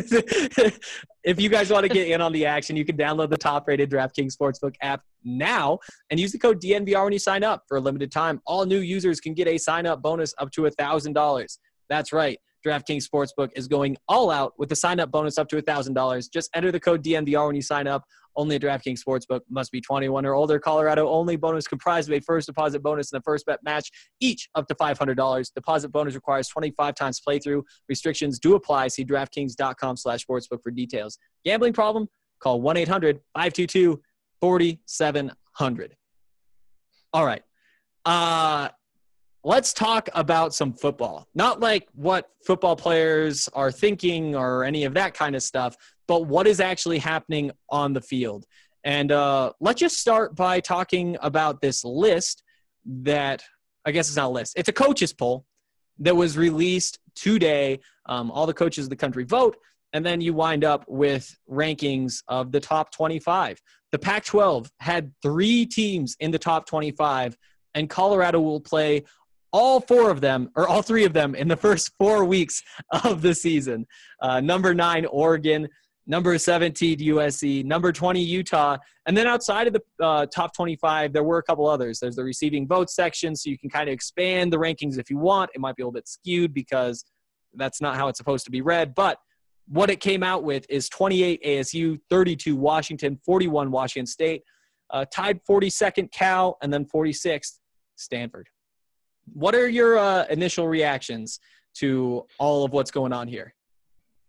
Speaker 6: if you guys want to get in on the action, you can download the top-rated DraftKings Sportsbook app now and use the code D N V R when you sign up. For a limited time, all new users can get a sign-up bonus up to one thousand dollars. That's right. DraftKings Sportsbook is going all out with the sign-up bonus up to one thousand dollars. Just enter the code D N V R when you sign up. Only at DraftKings Sportsbook. Must be twenty-one or older. Colorado only. Bonus comprised of a first deposit bonus and a first bet match, each up to five hundred dollars. Deposit bonus requires twenty-five times playthrough. Restrictions do apply. See DraftKings.com slash sportsbook for details. Gambling problem? Call one eight hundred five two two four seven zero zero. All right. Uh... Let's talk about some football. Not like what football players are thinking or any of that kind of stuff, but what is actually happening on the field. And uh, let's just start by talking about this list that, I guess it's not a list, it's a coaches poll that was released today. Um, all the coaches of the country vote, and then you wind up with rankings of the top twenty-five. The Pac twelve had three teams in the top twenty-five, and Colorado will play all four of them, or all three of them, in the first four weeks of the season. Uh, number nine, Oregon. Number seventeen, U S C. Number twenty, Utah. And then outside of the uh, top twenty-five, there were a couple others. There's the receiving vote section, so you can kind of expand the rankings if you want. It might be a little bit skewed because that's not how it's supposed to be read. But what it came out with is twenty-eight A S U, thirty-two Washington, forty-one Washington State, uh, tied forty-second Cal, and then forty-sixth Stanford. What are your uh, initial reactions to all of what's going on here?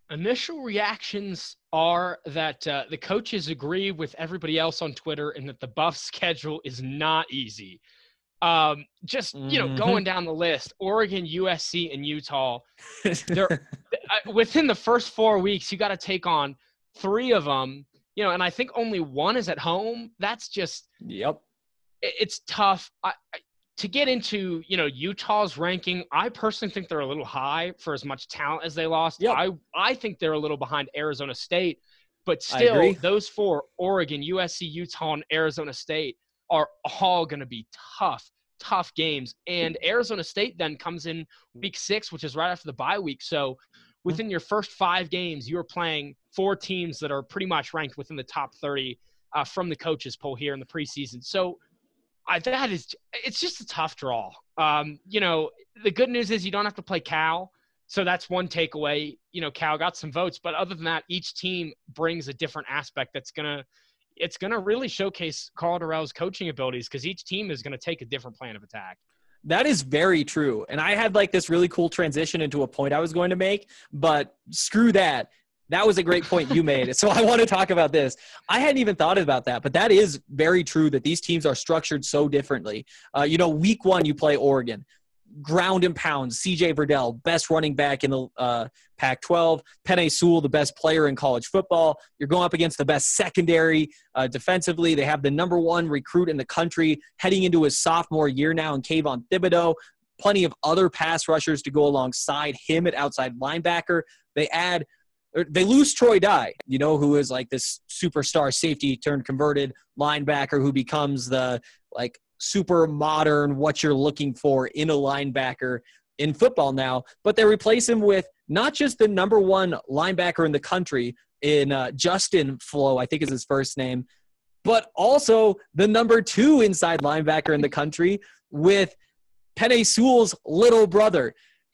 Speaker 7: Initial reactions are that uh, the coaches agree with everybody else on Twitter and that the Buff schedule is not easy. Um, just, you know,
Speaker 6: Mhm.
Speaker 7: going down the list, Oregon, U S C, and Utah, they're uh, within the first four weeks, you got to take on three of them, you know, and I think only one is at home. That's just,
Speaker 6: Yep.
Speaker 7: it- it's tough. I, I, to get into, you know, Utah's ranking, I personally think they're a little high for as much talent as they lost.
Speaker 6: Yep.
Speaker 7: I, I think they're a little behind Arizona State, but
Speaker 6: I
Speaker 7: still,
Speaker 6: agree.
Speaker 7: those four, Oregon, U S C, Utah, and Arizona State, are all going to be tough, tough games. And Arizona State then comes in week six, which is right after the bye week. So within your first five games, you're playing four teams that are pretty much ranked within the top thirty uh, from the coaches poll here in the preseason. So I, that is, it's just a tough draw. Um, you know, the good news is you don't have to play Cal. So that's one takeaway. You know, Cal got some votes, but other than that, each team brings a different aspect that's going to, it's going to really showcase Karl Dorrell's coaching abilities because each team is going to take a different plan of attack.
Speaker 6: That is very true. And I had like this really cool transition into a point I was going to make, but screw that. That was a great point you made. So I want to talk about this. I hadn't even thought about that, but that is very true that these teams are structured so differently. Uh, you know, week one, you play Oregon. Ground and pound, C J Verdell, best running back in the uh, Pac twelve. Penei Sewell, the best player in college football. You're going up against the best secondary uh, defensively. They have the number one recruit in the country heading into his sophomore year now in Kayvon Thibodeau. Plenty of other pass rushers to go alongside him at outside linebacker. They add They lose Troy Dye, you know, who is like this superstar safety turned converted linebacker who becomes the like super modern what you're looking for in a linebacker in football now. But they replace him with not just the number one linebacker in the country in uh, Justin Flo, I think is his first name, but also the number two inside linebacker in the country with Penei Sewell's little brother.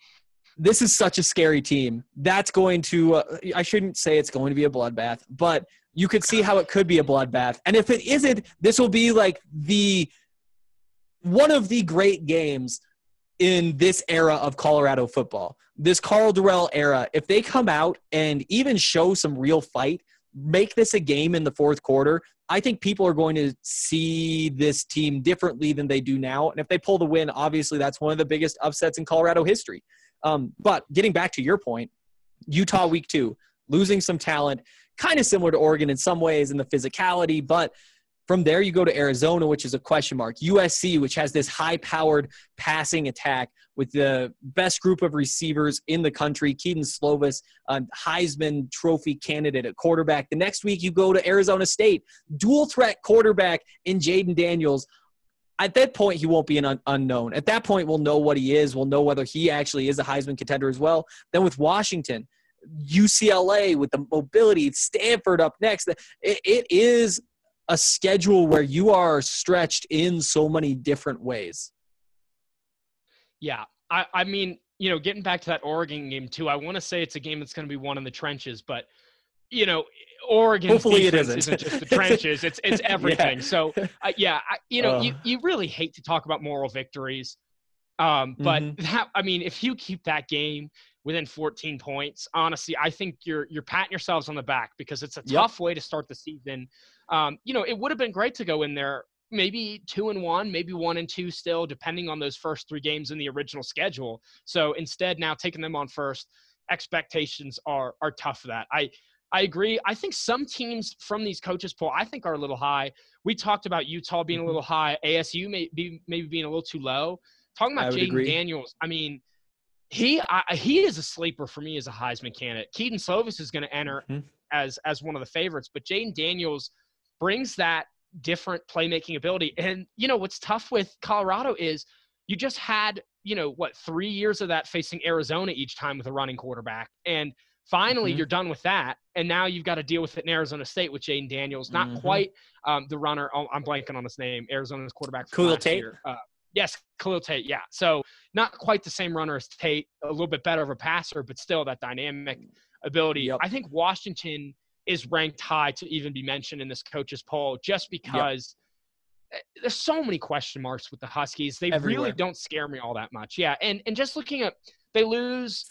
Speaker 6: This is such a scary team. That's going to uh, – I shouldn't say it's going to be a bloodbath, but you could see how it could be a bloodbath. And if it isn't, this will be like the – one of the great games in this era of Colorado football, this Karl Dorrell era. If they come out and even show some real fight, make this a game in the fourth quarter, I think people are going to see this team differently than they do now. And if they pull the win, obviously that's one of the biggest upsets in Colorado history. Um, but getting back to your point, Utah week two, losing some talent, kind of similar to Oregon in some ways in the physicality, but from there you go to Arizona, which is a question mark. U S C, which has this high-powered passing attack with the best group of receivers in the country, Keaton Slovis, a Heisman Trophy candidate at quarterback. The next week you go to Arizona State, dual-threat quarterback in Jaden Daniels. At that point, he won't be an un- unknown. At that point, we'll know what he is. We'll know whether he actually is a Heisman contender as well. Then with Washington, U C L A with the mobility, Stanford up next. It, it is a schedule where you are stretched in so many different ways.
Speaker 7: Yeah. I, I mean, you know, getting back to that Oregon game too, I want to say it's a game that's going to be one in the trenches, but you know, Oregon's
Speaker 6: Hopefully it
Speaker 7: defense
Speaker 6: isn't.
Speaker 7: isn't just the trenches. It's it's everything.
Speaker 6: Yeah.
Speaker 7: So, uh, yeah, I, you know,
Speaker 6: Uh.
Speaker 7: you, you really hate to talk about moral victories. Um, but
Speaker 6: Mhm.
Speaker 7: that, I mean, if you keep that game within fourteen points, honestly, I think you're you're patting yourselves on the back because it's a
Speaker 6: Yep.
Speaker 7: tough way to start the season. Um, you know, it would have been great to go in there maybe two and one, maybe one and two still, depending on those first three games in the original schedule. So instead, now taking them on first, expectations are are tough for that. I I agree. I think some teams from these coaches poll, I think are a little high. We talked about Utah being a little high, A S U may be maybe being a little too low. Talking
Speaker 6: I
Speaker 7: about
Speaker 6: would
Speaker 7: Jaden
Speaker 6: agree.
Speaker 7: Daniels, I mean, he I, he is a sleeper for me as a Heisman candidate. Keaton Slovis is going to enter
Speaker 6: Mhm.
Speaker 7: as as one of the favorites, but Jaden Daniels brings that different playmaking ability. And you know what's tough with Colorado is you just had you know what three years of that facing Arizona each time with a running quarterback, and finally
Speaker 6: Mhm.
Speaker 7: you're done with that, and now you've got to deal with it in Arizona State with Jaden Daniels, not
Speaker 6: Mhm.
Speaker 7: quite um, the runner. Oh, I'm blanking on his name. Arizona's quarterback from
Speaker 6: Khalil
Speaker 7: last
Speaker 6: Tate?
Speaker 7: year. Uh, yes, Khalil Tate. Yeah, so not quite the same runner as Tate, a little bit better of a passer, but still that dynamic ability.
Speaker 6: Yep.
Speaker 7: I think Washington is ranked high to even be mentioned in this coach's poll just because eh, there's so many question marks with the Huskies. They
Speaker 6: Everywhere.
Speaker 7: really don't scare me all that much. Yeah, and and just looking at they lose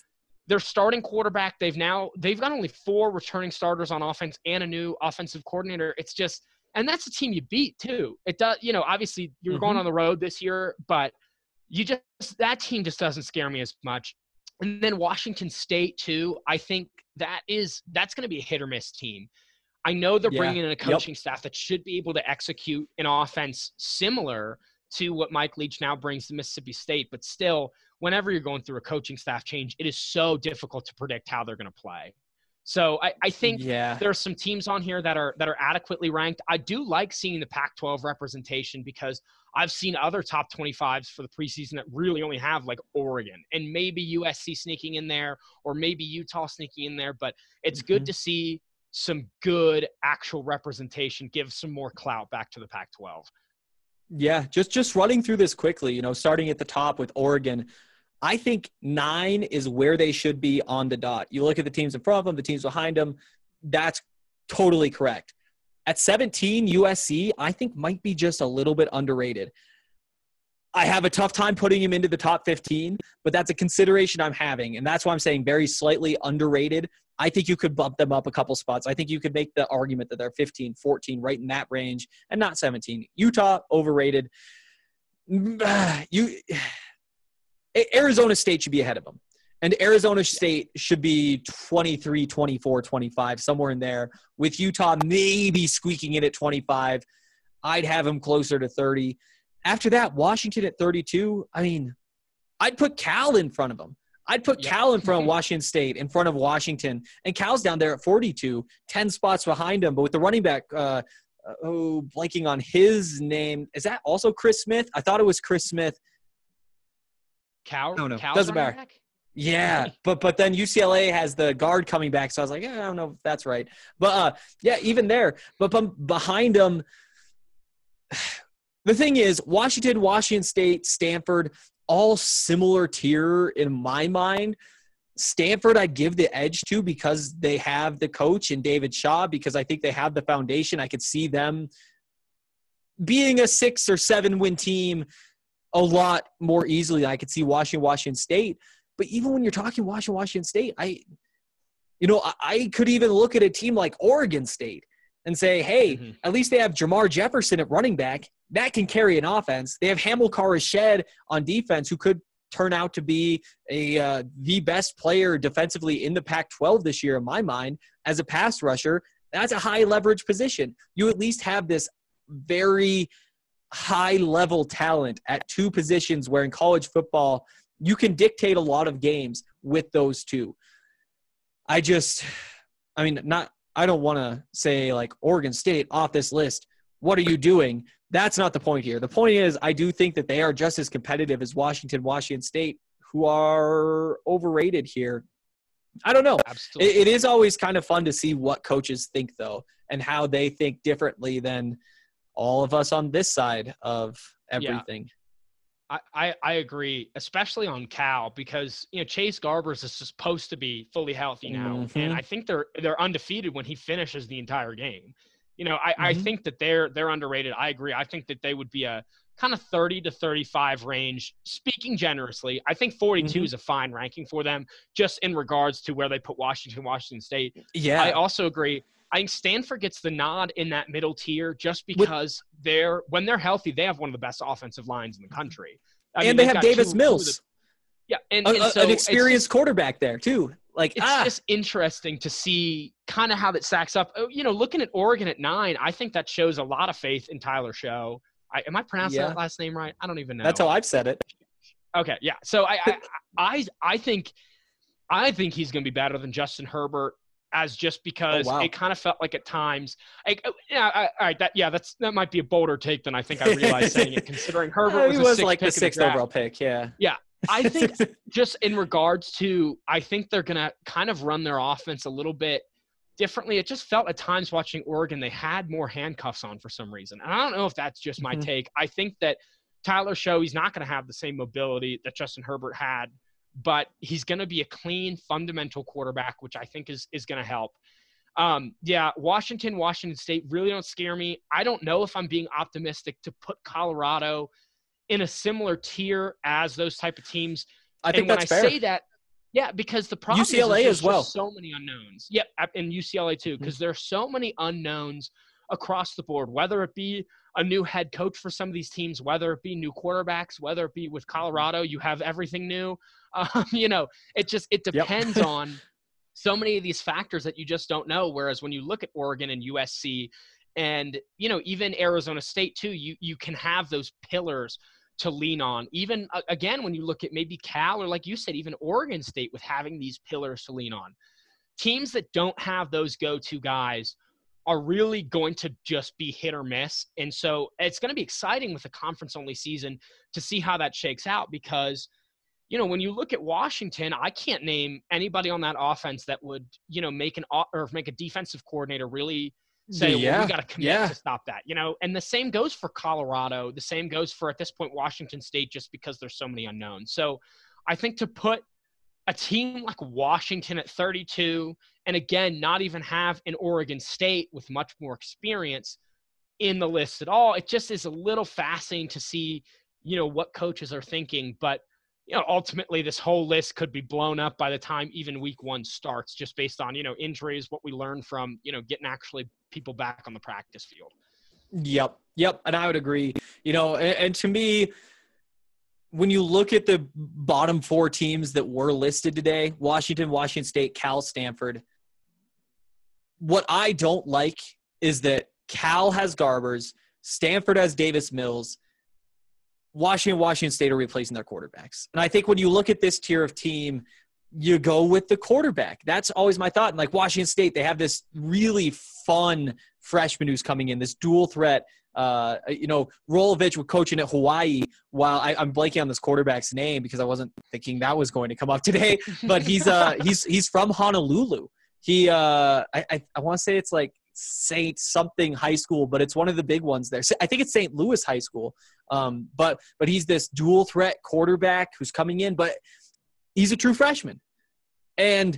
Speaker 7: their starting quarterback, they've now they've got only four returning starters on offense and a new offensive coordinator. It's just, and that's a team you beat too. It does, you know, obviously you're mm-hmm. going on the road this year, but you just, that team just doesn't scare me as much. And then Washington State too. I think that is, that's going to be a hit or miss team. I know they're
Speaker 6: yeah.
Speaker 7: bringing in a coaching
Speaker 6: yep.
Speaker 7: staff that should be able to execute an offense similar to what Mike Leach now brings to Mississippi State, but still, whenever you're going through a coaching staff change, it is so difficult to predict how they're going to play. So I, I think
Speaker 6: yeah.
Speaker 7: there are some teams on here that are that are adequately ranked. I do like seeing the Pac twelve representation because I've seen other top twenty-fives for the preseason that really only have like Oregon and maybe U S C sneaking in there or maybe Utah sneaking in there. But it's mm-hmm. good to see some good actual representation, give some more clout back to the Pac twelve.
Speaker 6: Yeah, just just running through this quickly, you know, starting at the top with Oregon, I think nine is where they should be on the dot. You look at the teams in front of them, the teams behind them, that's totally correct. At seventeen, U S C, I think might be just a little bit underrated. I have a tough time putting him into the top fifteen, but that's a consideration I'm having, and that's why I'm saying very slightly underrated. I think you could bump them up a couple spots. I think you could make the argument that they're fifteen, fourteen, right in that range, and not seventeen. Utah, overrated. You, Arizona State should be ahead of them. And Arizona State should be twenty-three, twenty-four, twenty-five, somewhere in there, with Utah maybe squeaking in at twenty-five. I'd have them closer to thirty. After that, Washington at thirty-two, I mean, I'd put Cal in front of them. I'd put yep. Cal in front of Washington State, in front of Washington. And Cal's down there at forty-two, ten spots behind him. But with the running back, uh, oh, blanking on his name. Is that also Chris Smith? I thought it was Chris Smith.
Speaker 7: Cal?
Speaker 6: No, no,
Speaker 7: Cal's
Speaker 6: doesn't matter.
Speaker 7: Back?
Speaker 6: Yeah, but but then U C L A has the guard coming back, so I was like, yeah, I don't know if that's right. But, uh, yeah, even there. But, but behind them, the thing is, Washington, Washington State, Stanford, all similar tier in my mind. Stanford I'd give the edge to because they have the coach in David Shaw, because I think they have the foundation. I could see them being a six or seven win team a lot more easily than I could see Washington, Washington State. But even when you're talking Washington, Washington State, I, you know, I, I could even look at a team like Oregon State and say, hey, mm-hmm. at least they have Jamar Jefferson at running back. That can carry an offense. They have Hamilcar Rashed on defense, who could turn out to be a uh, the best player defensively in the Pac twelve this year, in my mind, as a pass rusher. That's a high leverage position. You at least have this very high level talent at two positions where in college football you can dictate a lot of games with those two. I just, I mean, not, I don't want to say like Oregon State off this list. What are you doing? That's not the point here. The point is, I do think that they are just as competitive as Washington, Washington State, who are overrated here. I don't know.
Speaker 7: Absolutely.
Speaker 6: It, it is always kind of fun to see what coaches think, though, and how they think differently than all of us on this side of everything.
Speaker 7: Yeah. I, I, I agree, especially on Cal, because, you know, Chase Garbers is supposed to be fully healthy now.
Speaker 6: Mm-hmm.
Speaker 7: And I think they're they're undefeated when he finishes the entire game. You know, I,
Speaker 6: Mm-hmm.
Speaker 7: I think that they're they're underrated. I agree. I think that they would be a kind of thirty to thirty-five range, speaking generously. I think forty-two
Speaker 6: Mhm.
Speaker 7: is a fine ranking for them, just in regards to where they put Washington, Washington State.
Speaker 6: Yeah.
Speaker 7: I also agree. I think Stanford gets the nod in that middle tier just because they're when they're healthy, they have one of the best offensive lines in the country. I mean,
Speaker 6: and they
Speaker 7: they've
Speaker 6: have
Speaker 7: got
Speaker 6: Davis
Speaker 7: two-
Speaker 6: Mills,
Speaker 7: two of the- yeah, and,
Speaker 6: a-
Speaker 7: and
Speaker 6: a-
Speaker 7: so
Speaker 6: an
Speaker 7: it's
Speaker 6: experienced
Speaker 7: just-
Speaker 6: quarterback there too. Like,
Speaker 7: it's
Speaker 6: ah,
Speaker 7: just interesting to see kind of how that stacks up. Oh, you know, looking at Oregon at nine, I think that shows a lot of faith in Tyler Show. I, am I pronouncing
Speaker 6: Yeah.
Speaker 7: that last name right? I don't even know.
Speaker 6: that's how I've said it.
Speaker 7: Okay, yeah. So I, I, I, I think, I think he's going to be better than Justin Herbert, as just because
Speaker 6: Oh, wow.
Speaker 7: it kind of felt like at times, like, oh, yeah, I, all right, that yeah, that's that might be a bolder take than I think I realized saying it, considering Herbert
Speaker 6: Uh,
Speaker 7: was,
Speaker 6: he
Speaker 7: a
Speaker 6: was
Speaker 7: sixth
Speaker 6: like the
Speaker 7: pick in
Speaker 6: sixth
Speaker 7: draft.
Speaker 6: overall pick. Yeah.
Speaker 7: I think just in regards to, I think they're going to kind of run their offense a little bit differently. It just felt at times watching Oregon, they had more handcuffs on for some reason. And I don't know if that's just my
Speaker 6: Mhm.
Speaker 7: take. I think that Tyler Show, he's not going to have the same mobility that Justin Herbert had, but he's going to be a clean, fundamental quarterback, which I think is, is going to help. Um, yeah, Washington, Washington State really don't scare me. I don't know if I'm being optimistic to put Colorado in a similar tier as those type of teams.
Speaker 6: I think
Speaker 7: and when
Speaker 6: that's
Speaker 7: I
Speaker 6: fair.
Speaker 7: say that, Yeah, because the problem
Speaker 6: U C L A
Speaker 7: is, is
Speaker 6: as well.
Speaker 7: so many unknowns. Yeah, and U C L A too, because mm-hmm. there's so many unknowns across the board, whether it be a new head coach for some of these teams, whether it be new quarterbacks, whether it be with Colorado, you have everything new. Um, you know, it just, it depends yep. on so many of these factors that you just don't know. Whereas when you look at Oregon and U S C and, you know, even Arizona State too, you, you can have those pillars to lean on. Even uh, again, when you look at maybe Cal or like you said, even Oregon State with having these pillars to lean on. Teams that don't have those go-to guys are really going to just be hit or miss. And so it's going to be exciting with a conference-only season to see how that shakes out because, you know, when you look at Washington, I can't name anybody on that offense that would, you know, make an or make a defensive coordinator really say, yeah, well, we got to commit yeah. to stop that, you know, and the same goes for Colorado. The same goes for, at this point, Washington State, just because there's so many unknowns. So I think to put a team like Washington at thirty-two, and again, not even have an Oregon State with much more experience in the list at all, it just is a little fascinating to see, you know, what coaches are thinking. But, you know, ultimately this whole list could be blown up by the time even week one starts, just based on, you know, injuries, what we learned from, you know, getting actually people back on the practice field.
Speaker 6: Yep. Yep. And I would agree, you know, and, and to me, when you look at the bottom four teams that were listed today, Washington, Washington State, Cal, Stanford, what I don't like is that Cal has Garbers, Stanford has Davis Mills, Washington, Washington State are replacing their quarterbacks. And I think when you look at this tier of team, you go with the quarterback. That's always my thought. And like Washington State, they have this really fun freshman who's coming in, this dual threat. Uh, you know, Rolovich was coaching at Hawaii while I, I'm blanking on this quarterback's name because I wasn't thinking that was going to come up today, but he's, uh, he's, he's from Honolulu. He, uh, I, I, I want to say it's like Saint something high school, but it's one of the big ones there. I think it's Saint Louis High School. Um, but, but he's this dual threat quarterback who's coming in, but he's a true freshman. And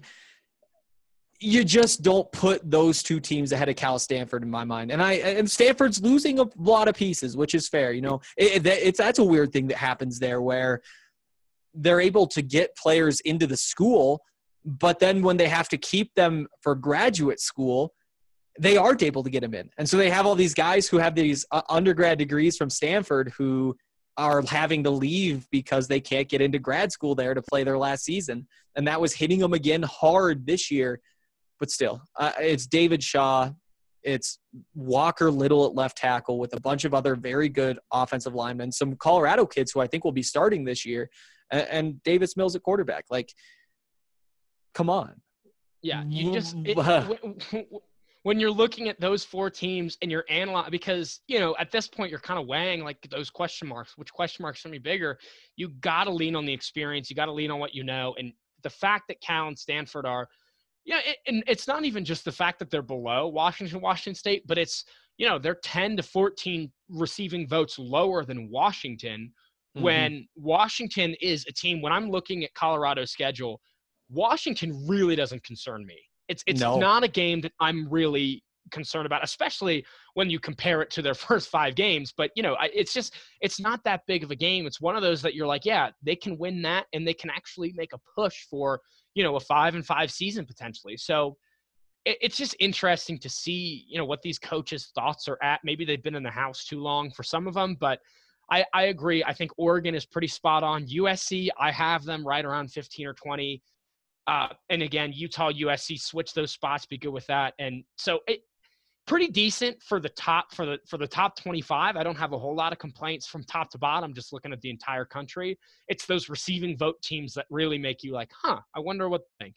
Speaker 6: you just don't put those two teams ahead of Cal Stanford in my mind. And I and Stanford's losing a lot of pieces, which is fair. You know, it, it, it's that's a weird thing that happens there where they're able to get players into the school, but then when they have to keep them for graduate school, they aren't able to get them in. And so they have all these guys who have these uh, undergrad degrees from Stanford who are having to leave because they can't get into grad school there to play their last season. And that was hitting them again hard this year. But still, uh, it's David Shaw. It's Walker Little at left tackle with a bunch of other very good offensive linemen, some Colorado kids who I think will be starting this year, and, and Davis Mills at quarterback. Like, come on.
Speaker 7: Yeah, you just it, when, when you're looking at those four teams and you're analyzing, because, you know, at this point you're kind of weighing like those question marks, which question marks are going to be bigger. You got to lean on the experience. You got to lean on what you know. And the fact that Cal and Stanford are, yeah, it, and it's not even just the fact that they're below Washington, Washington State, but it's, you know, they're ten to fourteen receiving votes lower than Washington, mm-hmm. when Washington is a team. When I'm looking at Colorado's schedule, Washington really doesn't concern me. It's it's no. not a game that I'm really concerned about, especially when you compare it to their first five games. But, you know, I, it's just, it's not that big of a game. It's one of those that you're like, yeah, they can win that and they can actually make a push for, you know, a five and five season potentially. So it, it's just interesting to see, you know, what these coaches' thoughts are at. Maybe they've been in the house too long for some of them, but I, I agree. I think Oregon is pretty spot on. U S C, I have them right around fifteen or twenty. Uh, and again, Utah, U S C, switch those spots, be good with that. And so it pretty decent for the top, for the, for the top twenty-five. I don't have a whole lot of complaints from top to bottom, just looking at the entire country. It's those receiving vote teams that really make you like, huh, I wonder what they think.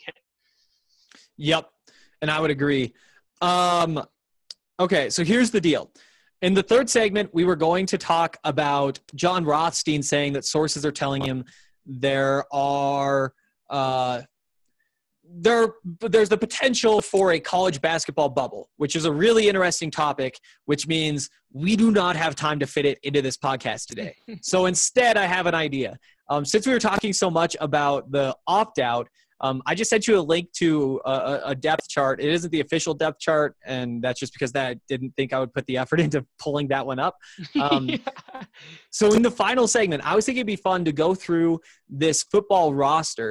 Speaker 6: Yep. And I would agree. Um, okay. So here's the deal. In the third segment, we were going to talk about John Rothstein saying that sources are telling him there are, uh, There, there's the potential for a college basketball bubble, which is a really interesting topic, which means we do not have time to fit it into this podcast today. So instead, I have an idea. Um, since we were talking so much about the opt-out, um, I just sent you a link to a, a depth chart. It isn't the official depth chart, and that's just because that I didn't think I would put the effort into pulling that one up. Um, yeah. So in the final segment, I was thinking it'd be fun to go through this football roster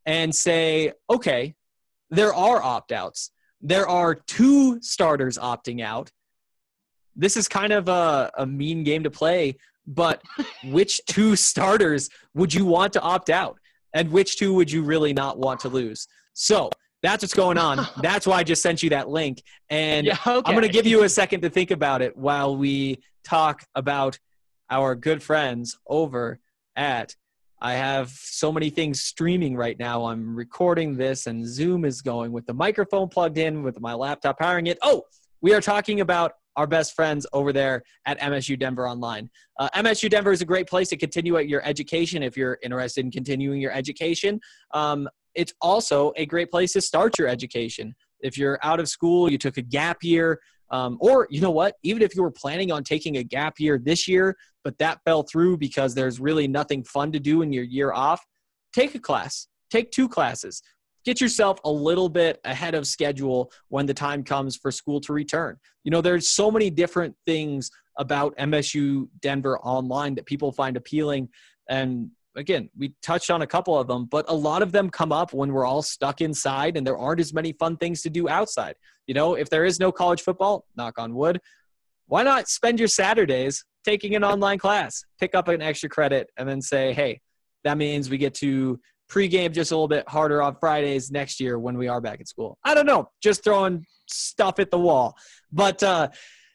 Speaker 6: and say, okay, there are opt-outs. There are two starters opting out. This is kind of a, a mean game to play, but which two starters would you want to opt out? And which two would you really not want to lose? So that's what's going on. That's why I just sent you that link. And
Speaker 7: Yeah, okay.
Speaker 6: I'm going to give you a second to think about it while we talk about our good friends over at I have so many things streaming right now. I'm recording this, and Zoom is going with the microphone plugged in, with my laptop powering it. Oh, we are talking about our best friends over there at M S U Denver Online. Uh, M S U Denver is a great place to continue at your education if you're interested in continuing your education. Um, it's also a great place to start your education. If you're out of school, you took a gap year, um, or you know what, even if you were planning on taking a gap year this year, but that fell through because there's really nothing fun to do in your year off, take a class, take two classes. Get yourself a little bit ahead of schedule when the time comes for school to return. You know, there's so many different things about M S U Denver Online that people find appealing. And again, we touched on a couple of them, but a lot of them come up when we're all stuck inside and there aren't as many fun things to do outside. You know, if there is no college football, knock on wood, why not spend your Saturdays taking an online class, pick up an extra credit, and then say, hey, that means we get to pregame just a little bit harder on Fridays next year when we are back at school. I don't know, just throwing stuff at the wall. But uh,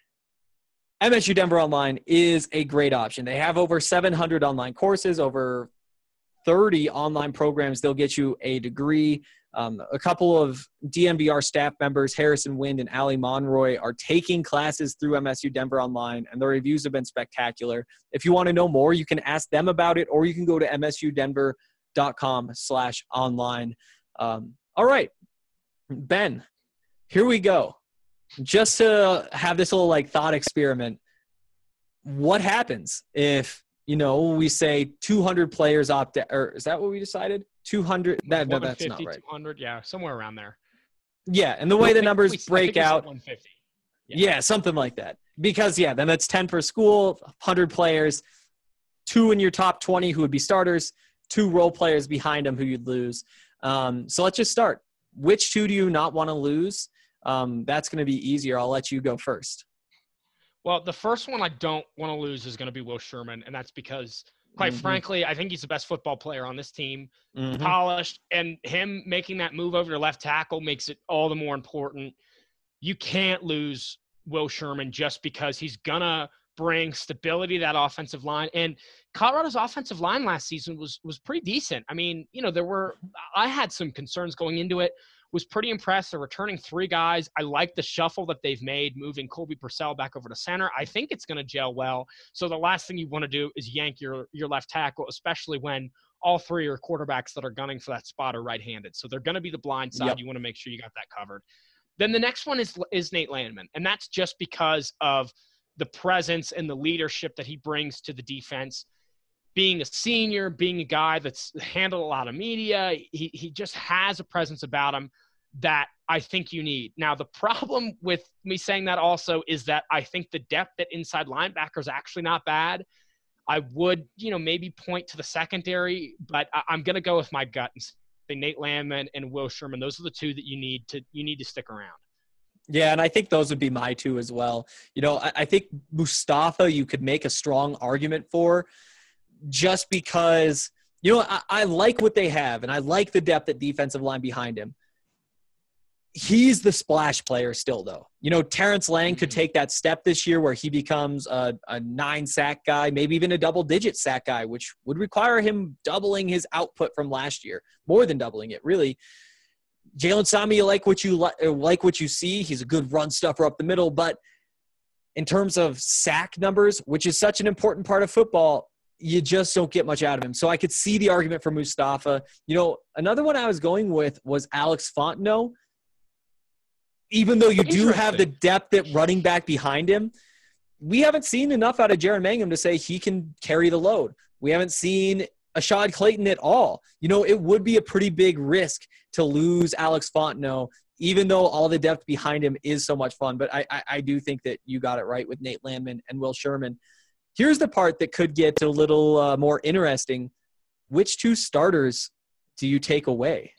Speaker 6: M S U Denver Online is a great option. They have over seven hundred online courses, over thirty online programs. They'll get you a degree. Um, a couple of D N V R staff members, Harrison Wind and Ali Monroy, are taking classes through M S U Denver Online, and the reviews have been spectacular. If you want to know more, you can ask them about it, or you can go to M S U Denver dot com slash online. Um, all right, Ben, here we go. Just to have this little like thought experiment. What happens if, you know, we say two hundred players opt out, or is that what we decided? two hundred? That, no, that's not right.
Speaker 7: two hundred, yeah, somewhere around there.
Speaker 6: Yeah, and the way the numbers
Speaker 7: we,
Speaker 6: break out.
Speaker 7: one fifty.
Speaker 6: Yeah. yeah, something like that. Because, yeah, then that's ten per school, one hundred players, two in your top twenty who would be starters, two role players behind them who you'd lose. Um, so let's just start. Which two do you not want to lose? Um, that's going to be easier. I'll let you go first.
Speaker 7: Well, the first one I don't want to lose is going to be Will Sherman, and that's because, quite mm-hmm. frankly, I think he's the best football player on this team, mm-hmm. polished, and him making that move over to left tackle makes it all the more important. You can't lose Will Sherman just because he's going to bring stability to that offensive line. And Colorado's offensive line last season was was pretty decent. I mean, you know, there were – I had some concerns going into it. Was pretty impressed. They're returning three guys. I like the shuffle that they've made, moving Colby Purcell back over to center. I think it's going to gel well. So the last thing you want to do is yank your your left tackle, especially when all three are quarterbacks that are gunning for that spot are right-handed. So they're going to be the blind side. Yep. You want to make sure you got that covered. Then the next one is is Nate Landman, and that's just because of the presence and the leadership that he brings to the defense. Being a senior, being a guy that's handled a lot of media, he he just has a presence about him that I think you need. Now, the problem with me saying that also is that I think the depth at inside linebacker is actually not bad. I would, you know, maybe point to the secondary, but I, I'm going to go with my gut and say Nate Landman and Will Sherman. Those are the two that you need to you need to stick around.
Speaker 6: Yeah, and I think those would be my two as well. You know, I, I think Mustafa you could make a strong argument for, just because, you know, I, I like what they have, and I like the depth at defensive line behind him. He's the splash player still, though. You know, Terrence Lang could take that step this year where he becomes a, a nine-sack guy, maybe even a double-digit sack guy, which would require him doubling his output from last year, more than doubling it, really. Jalen Sami, you like what you li- like what you see. He's a good run stuffer up the middle, but in terms of sack numbers, which is such an important part of football, you just don't get much out of him. So I could see the argument for Mustafa. You know, another one I was going with was Alex Fontenot. Even though you do have the depth at running back behind him, we haven't seen enough out of Jaron Mangum to say he can carry the load. We haven't seen Ashad Clayton at all. You know, it would be a pretty big risk to lose Alex Fontenot, even though all the depth behind him is so much fun. But I, I, I do think that you got it right with Nate Landman and Will Sherman. Here's the part that could get a little uh, more interesting. Which two starters do you take away?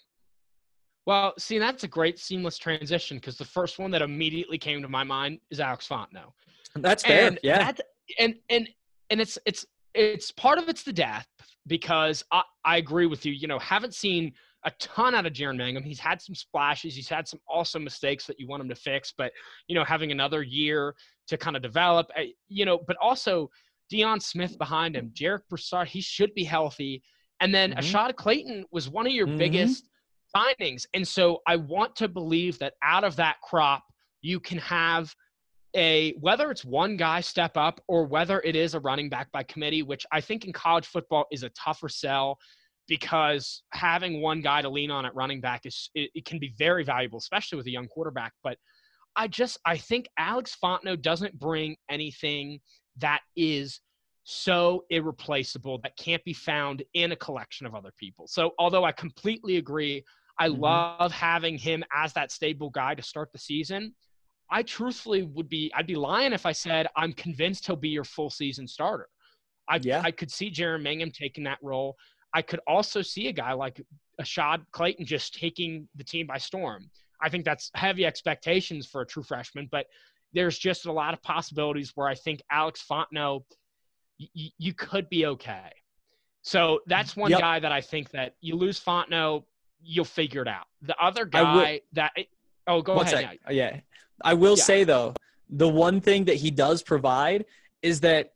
Speaker 7: Well, see, that's a great seamless transition because the first one that immediately came to my mind is Alex Fontenot.
Speaker 6: That's fair.
Speaker 7: And
Speaker 6: yeah.
Speaker 7: That, and and and it's it's it's part of it's the depth because I, I agree with you. You know, haven't seen a ton out of Jaren Mangham. He's had some splashes. He's had some awesome mistakes that you want him to fix. But, you know, having another year to kind of develop, you know, but also Deion Smith behind him, Jarek Broussard, he should be healthy. And then mm-hmm. Ashad Clayton was one of your mm-hmm. biggest signings. And so I want to believe that out of that crop, you can have a, whether it's one guy step up or whether it is a running back by committee, which I think in college football is a tougher sell because having one guy to lean on at running back is, it, it can be very valuable, especially with a young quarterback. But I just, I think Alex Fontenot doesn't bring anything that is so irreplaceable that can't be found in a collection of other people. So although I completely agree, I mm-hmm. love having him as that stable guy to start the season. I truthfully would be, I'd be lying if I said I'm convinced he'll be your full season starter. I, yeah. I could see Jaren Mangham taking that role. I could also see a guy like Ashad Clayton just taking the team by storm. I think that's heavy expectations for a true freshman, but there's just a lot of possibilities where I think Alex Fontenot, y- you could be okay. So that's one yep. guy that I think that you lose Fontenot, you'll figure it out. The other guy that – oh, go
Speaker 6: one
Speaker 7: ahead.
Speaker 6: Yeah. yeah. I will
Speaker 7: yeah.
Speaker 6: say, though, the one thing that he does provide is that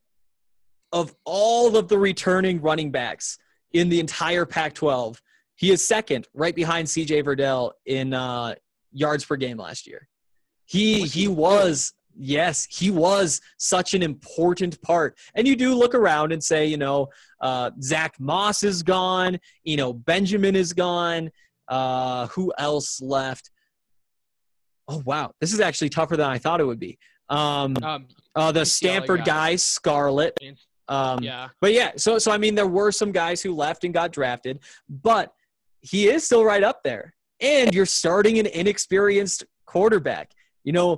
Speaker 6: of all of the returning running backs in the entire Pac twelve, he is second right behind C J Verdell in uh, yards per game last year. He was he, he was – yes, he was such an important part. And you do look around and say, you know, uh, Zach Moss is gone. You know, Benjamin is gone. Uh, who else left? Oh, wow. This is actually tougher than I thought it would be. Um, um, uh, the Stanford guy, Scarlett. Um,
Speaker 7: yeah.
Speaker 6: But, yeah, so, so, I mean, there were some guys who left and got drafted. But he is still right up there. And you're starting an inexperienced quarterback. You know,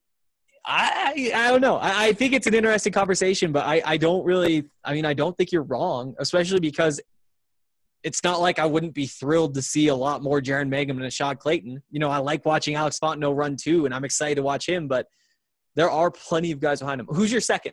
Speaker 6: I I don't know. I, I think it's an interesting conversation, but I, I don't really – I mean, I don't think you're wrong, especially because it's not like I wouldn't be thrilled to see a lot more Jaren Mangham and Ashad Clayton. You know, I like watching Alex Fontenot run too, and I'm excited to watch him, but there are plenty of guys behind him. Who's your second?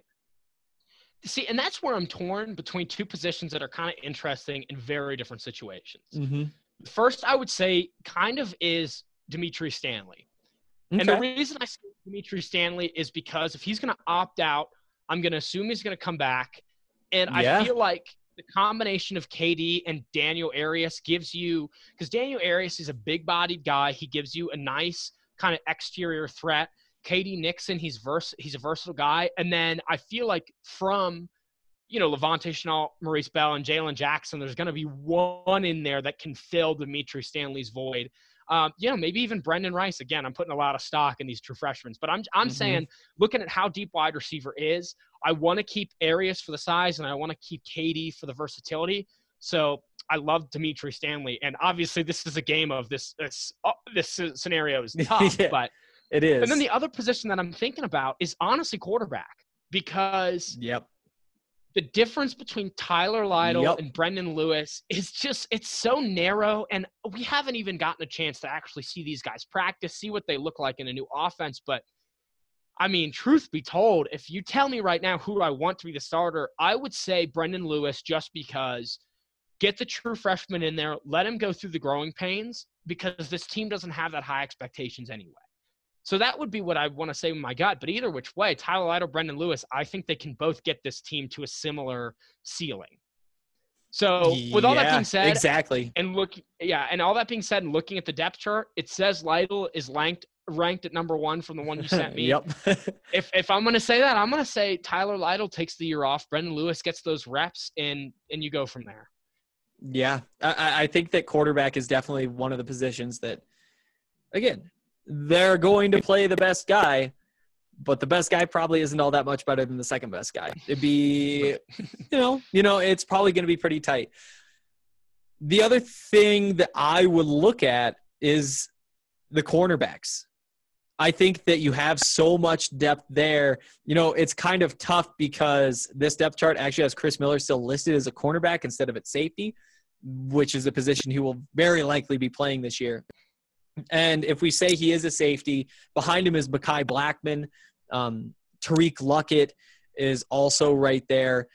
Speaker 7: See, and that's where I'm torn between two positions that are kind of interesting in very different situations.
Speaker 6: Mm-hmm.
Speaker 7: First, I would say kind of is Dimitri Stanley. Okay. And the reason I say Dimitri Stanley is because if he's going to opt out, I'm going to assume he's going to come back. And yeah. I feel like the combination of K D and Daniel Arias gives you – because Daniel Arias is a big-bodied guy. He gives you a nice kind of exterior threat. K D Nixon, he's vers- he's a versatile guy. And then I feel like from, you know, Levante Chenault, Maurice Bell, and Jalen Jackson, there's going to be one in there that can fill Dimitri Stanley's void. Um, you know, maybe even Brendan Rice. Again, I'm putting a lot of stock in these true freshmen. But I'm I'm mm-hmm. saying, looking at how deep wide receiver is, I want to keep Arias for the size, and I want to keep K D for the versatility. So I love Dimitri Stanley. And obviously this is a game of this this, uh, this scenario is tough.
Speaker 6: yeah,
Speaker 7: but
Speaker 6: it is.
Speaker 7: And then the other position that I'm thinking about is honestly quarterback. Because
Speaker 6: yep.
Speaker 7: the difference between Tyler Lytle
Speaker 6: yep.
Speaker 7: and Brendan Lewis is just, it's so narrow. And we haven't even gotten a chance to actually see these guys practice, see what they look like in a new offense. But I mean, truth be told, if you tell me right now who I want to be the starter, I would say Brendan Lewis, just because get the true freshman in there, let him go through the growing pains, because this team doesn't have that high expectations anyway. So that would be what I want to say with my gut. But either which way, Tyler Lytle, Brendan Lewis, I think they can both get this team to a similar ceiling. So with all
Speaker 6: yeah,
Speaker 7: that being said,
Speaker 6: exactly.
Speaker 7: And look, yeah, and all that being said, and looking at the depth chart, it says Lytle is ranked ranked at number one from the one you sent me.
Speaker 6: yep.
Speaker 7: if if I'm going to say that, I'm going to say Tyler Lytle takes the year off, Brendan Lewis gets those reps, and and you go from there.
Speaker 6: Yeah, I, I think that quarterback is definitely one of the positions that, again, they're going to play the best guy, but the best guy probably isn't all that much better than the second best guy. It'd be, you know, you know, it's probably going to be pretty tight. The other thing that I would look at is the cornerbacks. I think that you have so much depth there. You know, it's kind of tough because this depth chart actually has Chris Miller still listed as a cornerback instead of at safety. which is a position he will very likely be playing this year. And if we say he is a safety, behind him is Mekhi Blackman. Um, Tariq Luckett is also right there.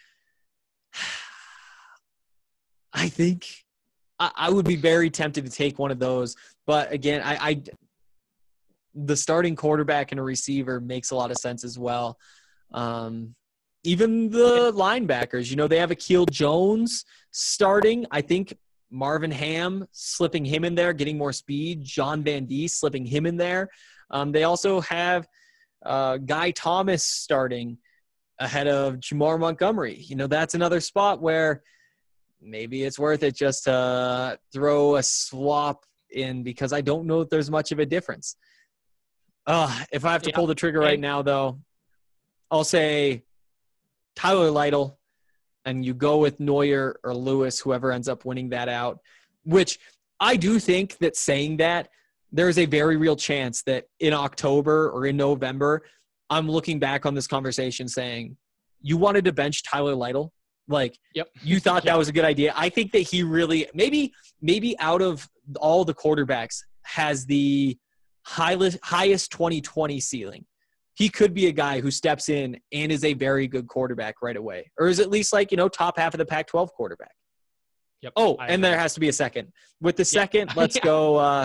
Speaker 6: I think I, I would be very tempted to take one of those. But again, I, I the starting quarterback and a receiver makes a lot of sense as well. Um, even the linebackers, you know, they have Akil Jones starting. I think Marvin Ham, slipping him in there, getting more speed. John Van Dee, slipping him in there. Um, they also have uh, Guy Thomas starting ahead of Jamar Montgomery. You know, that's another spot where maybe it's worth it just to throw a swap in, because I don't know if there's much of a difference. Uh, if I have to yeah. pull the trigger right now, though, I'll say Tyler Lytle, and you go with Neuer or Lewis, whoever ends up winning that out, which I do think that saying that, there is a very real chance that in October or in November, I'm looking back on this conversation saying, you wanted to bench Tyler Lytle? Like,
Speaker 7: yep.
Speaker 6: you thought
Speaker 7: yep.
Speaker 6: that was a good idea. I think that he really, maybe, maybe out of all the quarterbacks, has the highest, highest twenty twenty ceiling. He could be a guy who steps in and is a very good quarterback right away. Or is at least like, you know, top half of the Pac twelve quarterback.
Speaker 7: Yep.
Speaker 6: Oh,
Speaker 7: I
Speaker 6: and
Speaker 7: agree.
Speaker 6: there has to be a second. With the second,
Speaker 7: yeah.
Speaker 6: let's
Speaker 7: yeah.
Speaker 6: go. Uh,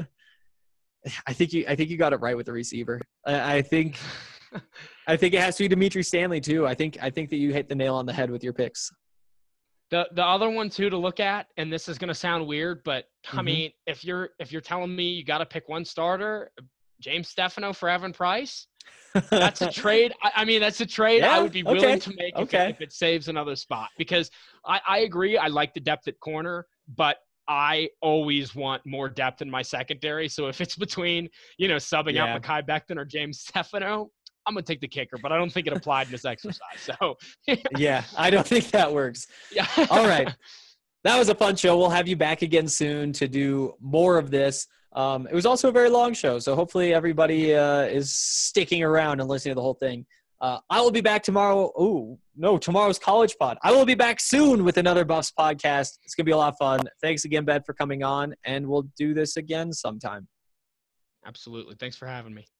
Speaker 6: I think you I think you got it right with the receiver. I, I think I think it has to be Dimitri Stanley too. I think I think that you hit the nail on the head with your picks.
Speaker 7: The the other one too to look at, and this is gonna sound weird, but
Speaker 6: Mm-hmm.
Speaker 7: I mean, if you're if you're telling me you got to pick one starter, James Stefano for Evan Price, that's a trade. I, I mean, that's a trade
Speaker 6: Yeah,
Speaker 7: I would be willing
Speaker 6: okay,
Speaker 7: to make
Speaker 6: okay.
Speaker 7: if, it, if it saves another spot. Because I, I agree, I like the depth at corner, but I always want more depth in my secondary. So if it's between, you know, subbing
Speaker 6: Yeah.
Speaker 7: out Mekhi Becton or James Stefano, I'm going to take the kicker, but I don't think it applied in this exercise. So
Speaker 6: Yeah, I don't think that works.
Speaker 7: yeah.
Speaker 6: All right. That was a fun show. We'll have you back again soon to do more of this. Um, it was also a very long show, so hopefully everybody uh, is sticking around and listening to the whole thing. Uh, I will be back tomorrow. Oh, no, tomorrow's College Pod. I will be back soon with another Buffs podcast. It's going to be a lot of fun. Thanks again, Ben, for coming on, and we'll do this again sometime.
Speaker 7: Absolutely. Thanks for having me.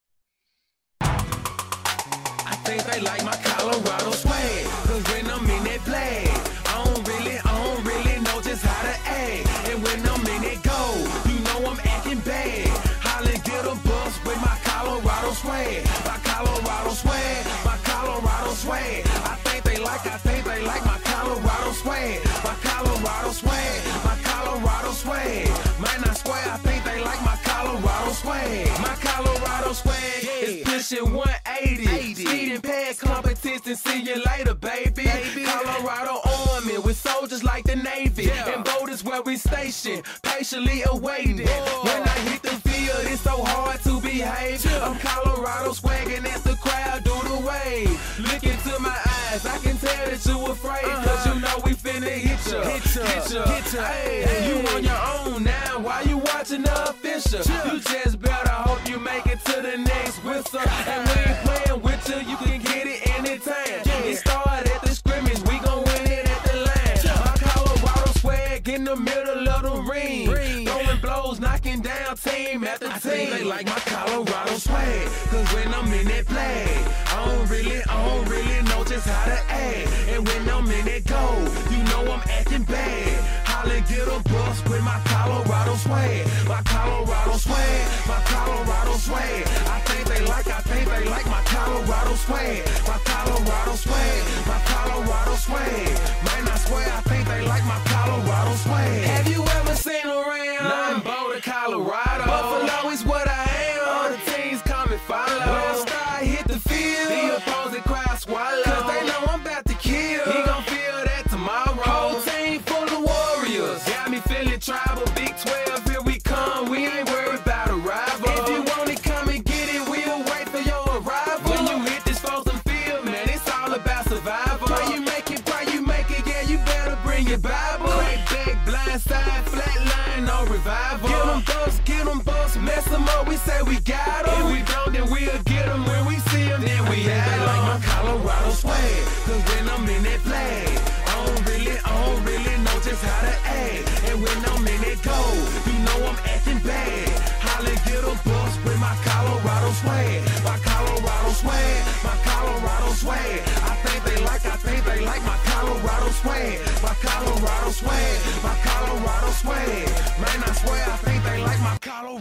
Speaker 5: I think they like my Colorado swag, cause when I'm in that play, I don't really, I don't really know just how to act. And when I'm in that go, you know I'm acting bad. Holla, get a bus with my Colorado swag, my Colorado swag, my Colorado swag. I think they like, I think they like my Colorado swag, my Colorado swag, my Colorado swag. Man, I swear, I think they like my Colorado swag, my Colorado swag is pushing one eighty. Speeding past competition, see you later, baby. baby. Colorado Army with soldiers like the Navy. Yeah. And boat is where we station, patiently awaiting. Whoa. When I hit the field, it's so hard to behave. Yeah. I'm Colorado swagging as the crowd do the wave. Look into my eyes, I can tell that you afraid. Uh-huh. Cause you know we finna hit ya, hit ya, hit ya. Hit ya. Hey, hey. You on your own now, why you watching the official? Yeah. You just better hope you make it to the next whistle. And we ain't playing with you, you can get it anytime. Yeah. It started at the scrimmage, we gon' win it at the line. Yeah. My Colorado swag in the middle of the ring. ring. Throwing blows, knocking down team after I team. Think they like my Colorado swag, cause when I'm in that play, I don't really, I don't really know just how to act. And when I'm in that go, you know I'm acting bad. Holla, get a bus with my Colorado swag, my Colorado swag, my Colorado swag. I think they like, I think they like my Colorado swag, my Colorado swag, my Colorado swag. Man, I swear, I think they like my Colorado swag. Have you ever seen around? Nothing Boulder, Colorado. Buffalo is what I am. All the teams come and follow. When I start hit the field, the opposing crowd swallow. Cause they know I'm about to kill. He gon' feel that tomorrow. Whole team full of warriors. Got me feeling tribal. Big twelve, here we come. We ain't worried about a rival. If you want it, come and get it. We'll wait for your arrival. When you hit this frozen field, man, it's all about survival. Pray you make it, pray you make it. Yeah, you better bring your Bible. Crack back, blind side, flat line, no revival. Get them buffs, get them buffs, mess them up. We say we got them. If we don't, then we'll get them. When we see them, then we have them. Like my Colorado swag, cause when I'm in that play, I don't really, I don't really know just how to act.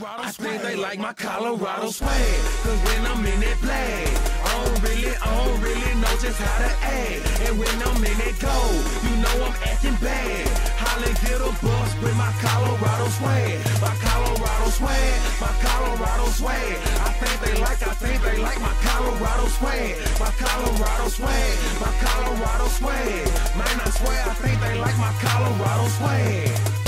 Speaker 5: Colorado I think they like my Colorado swag. Cause when I'm in that flag, I don't really, I don't really know just how to act. And when I'm in that gold, you know I'm acting bad. Holla, get a bus with my Colorado swag. My Colorado swag, my Colorado swag. I think they like, I think they like my Colorado swag. My Colorado swag, my Colorado swag. Man, I swear I think they like my Colorado swag.